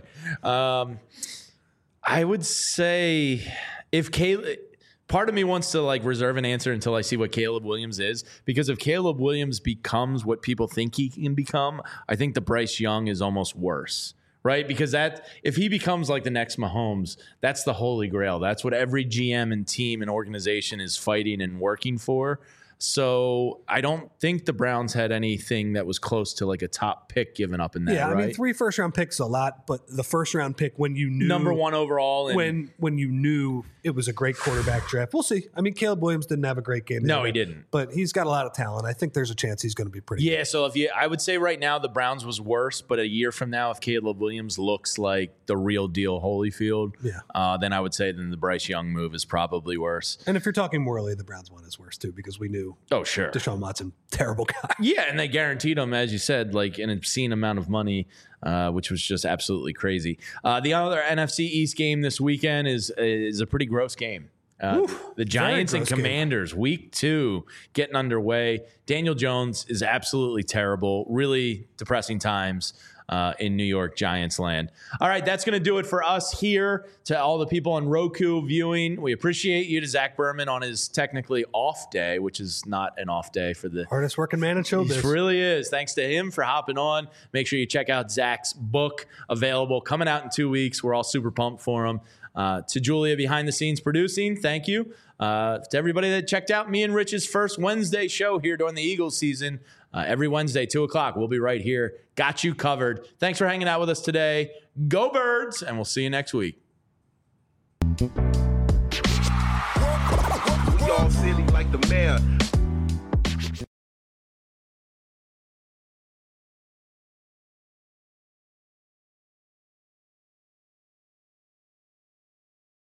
I would say if Caleb. Part of me wants to like reserve an answer until I see what Caleb Williams is, because if Caleb Williams becomes what people think he can become, I think the Bryce Young is almost worse, right? Because that if he becomes like the next Mahomes, that's the holy grail. That's what every GM and team and organization is fighting and working for. So I don't think the Browns had anything that was close to like a top pick given up in that. Yeah, right? I mean, 3 first-round picks is a lot, but the first-round pick when you knew number 1 overall, when you knew it was a great quarterback draft. We'll see. I mean, Caleb Williams didn't have a great game. No, he didn't. But he's got a lot of talent. I think there's a chance he's going to be pretty good. So I would say right now the Browns was worse, but a year from now, if Caleb Williams looks like the real deal Holyfield, then I would say then the Bryce Young move is probably worse. And if you're talking morally, the Browns one is worse too, because we knew. Oh, sure. Deshaun Watson, terrible guy. Yeah, and they guaranteed him, as you said, like an obscene amount of money, which was just absolutely crazy. The other NFC East game this weekend is a pretty gross game. The Giants and Commanders, week 2, getting underway. Daniel Jones is absolutely terrible. Really depressing times in New York Giants land. All right, that's going to do it for us here. To all the people on Roku viewing, we appreciate you. To Zach Berman on his technically off day, which is not an off day for the hardest working man in showbiz. It really is. Thanks to him for hopping on. Make sure you check out Zach's book, available, coming out in 2 weeks. We're all super pumped for him. To Julia behind the scenes producing, thank you. To everybody that checked out me and Rich's first Wednesday show here during the Eagles season. Every Wednesday, 2 o'clock, we'll be right here. Got you covered. Thanks for hanging out with us today. Go Birds, and we'll see you next week.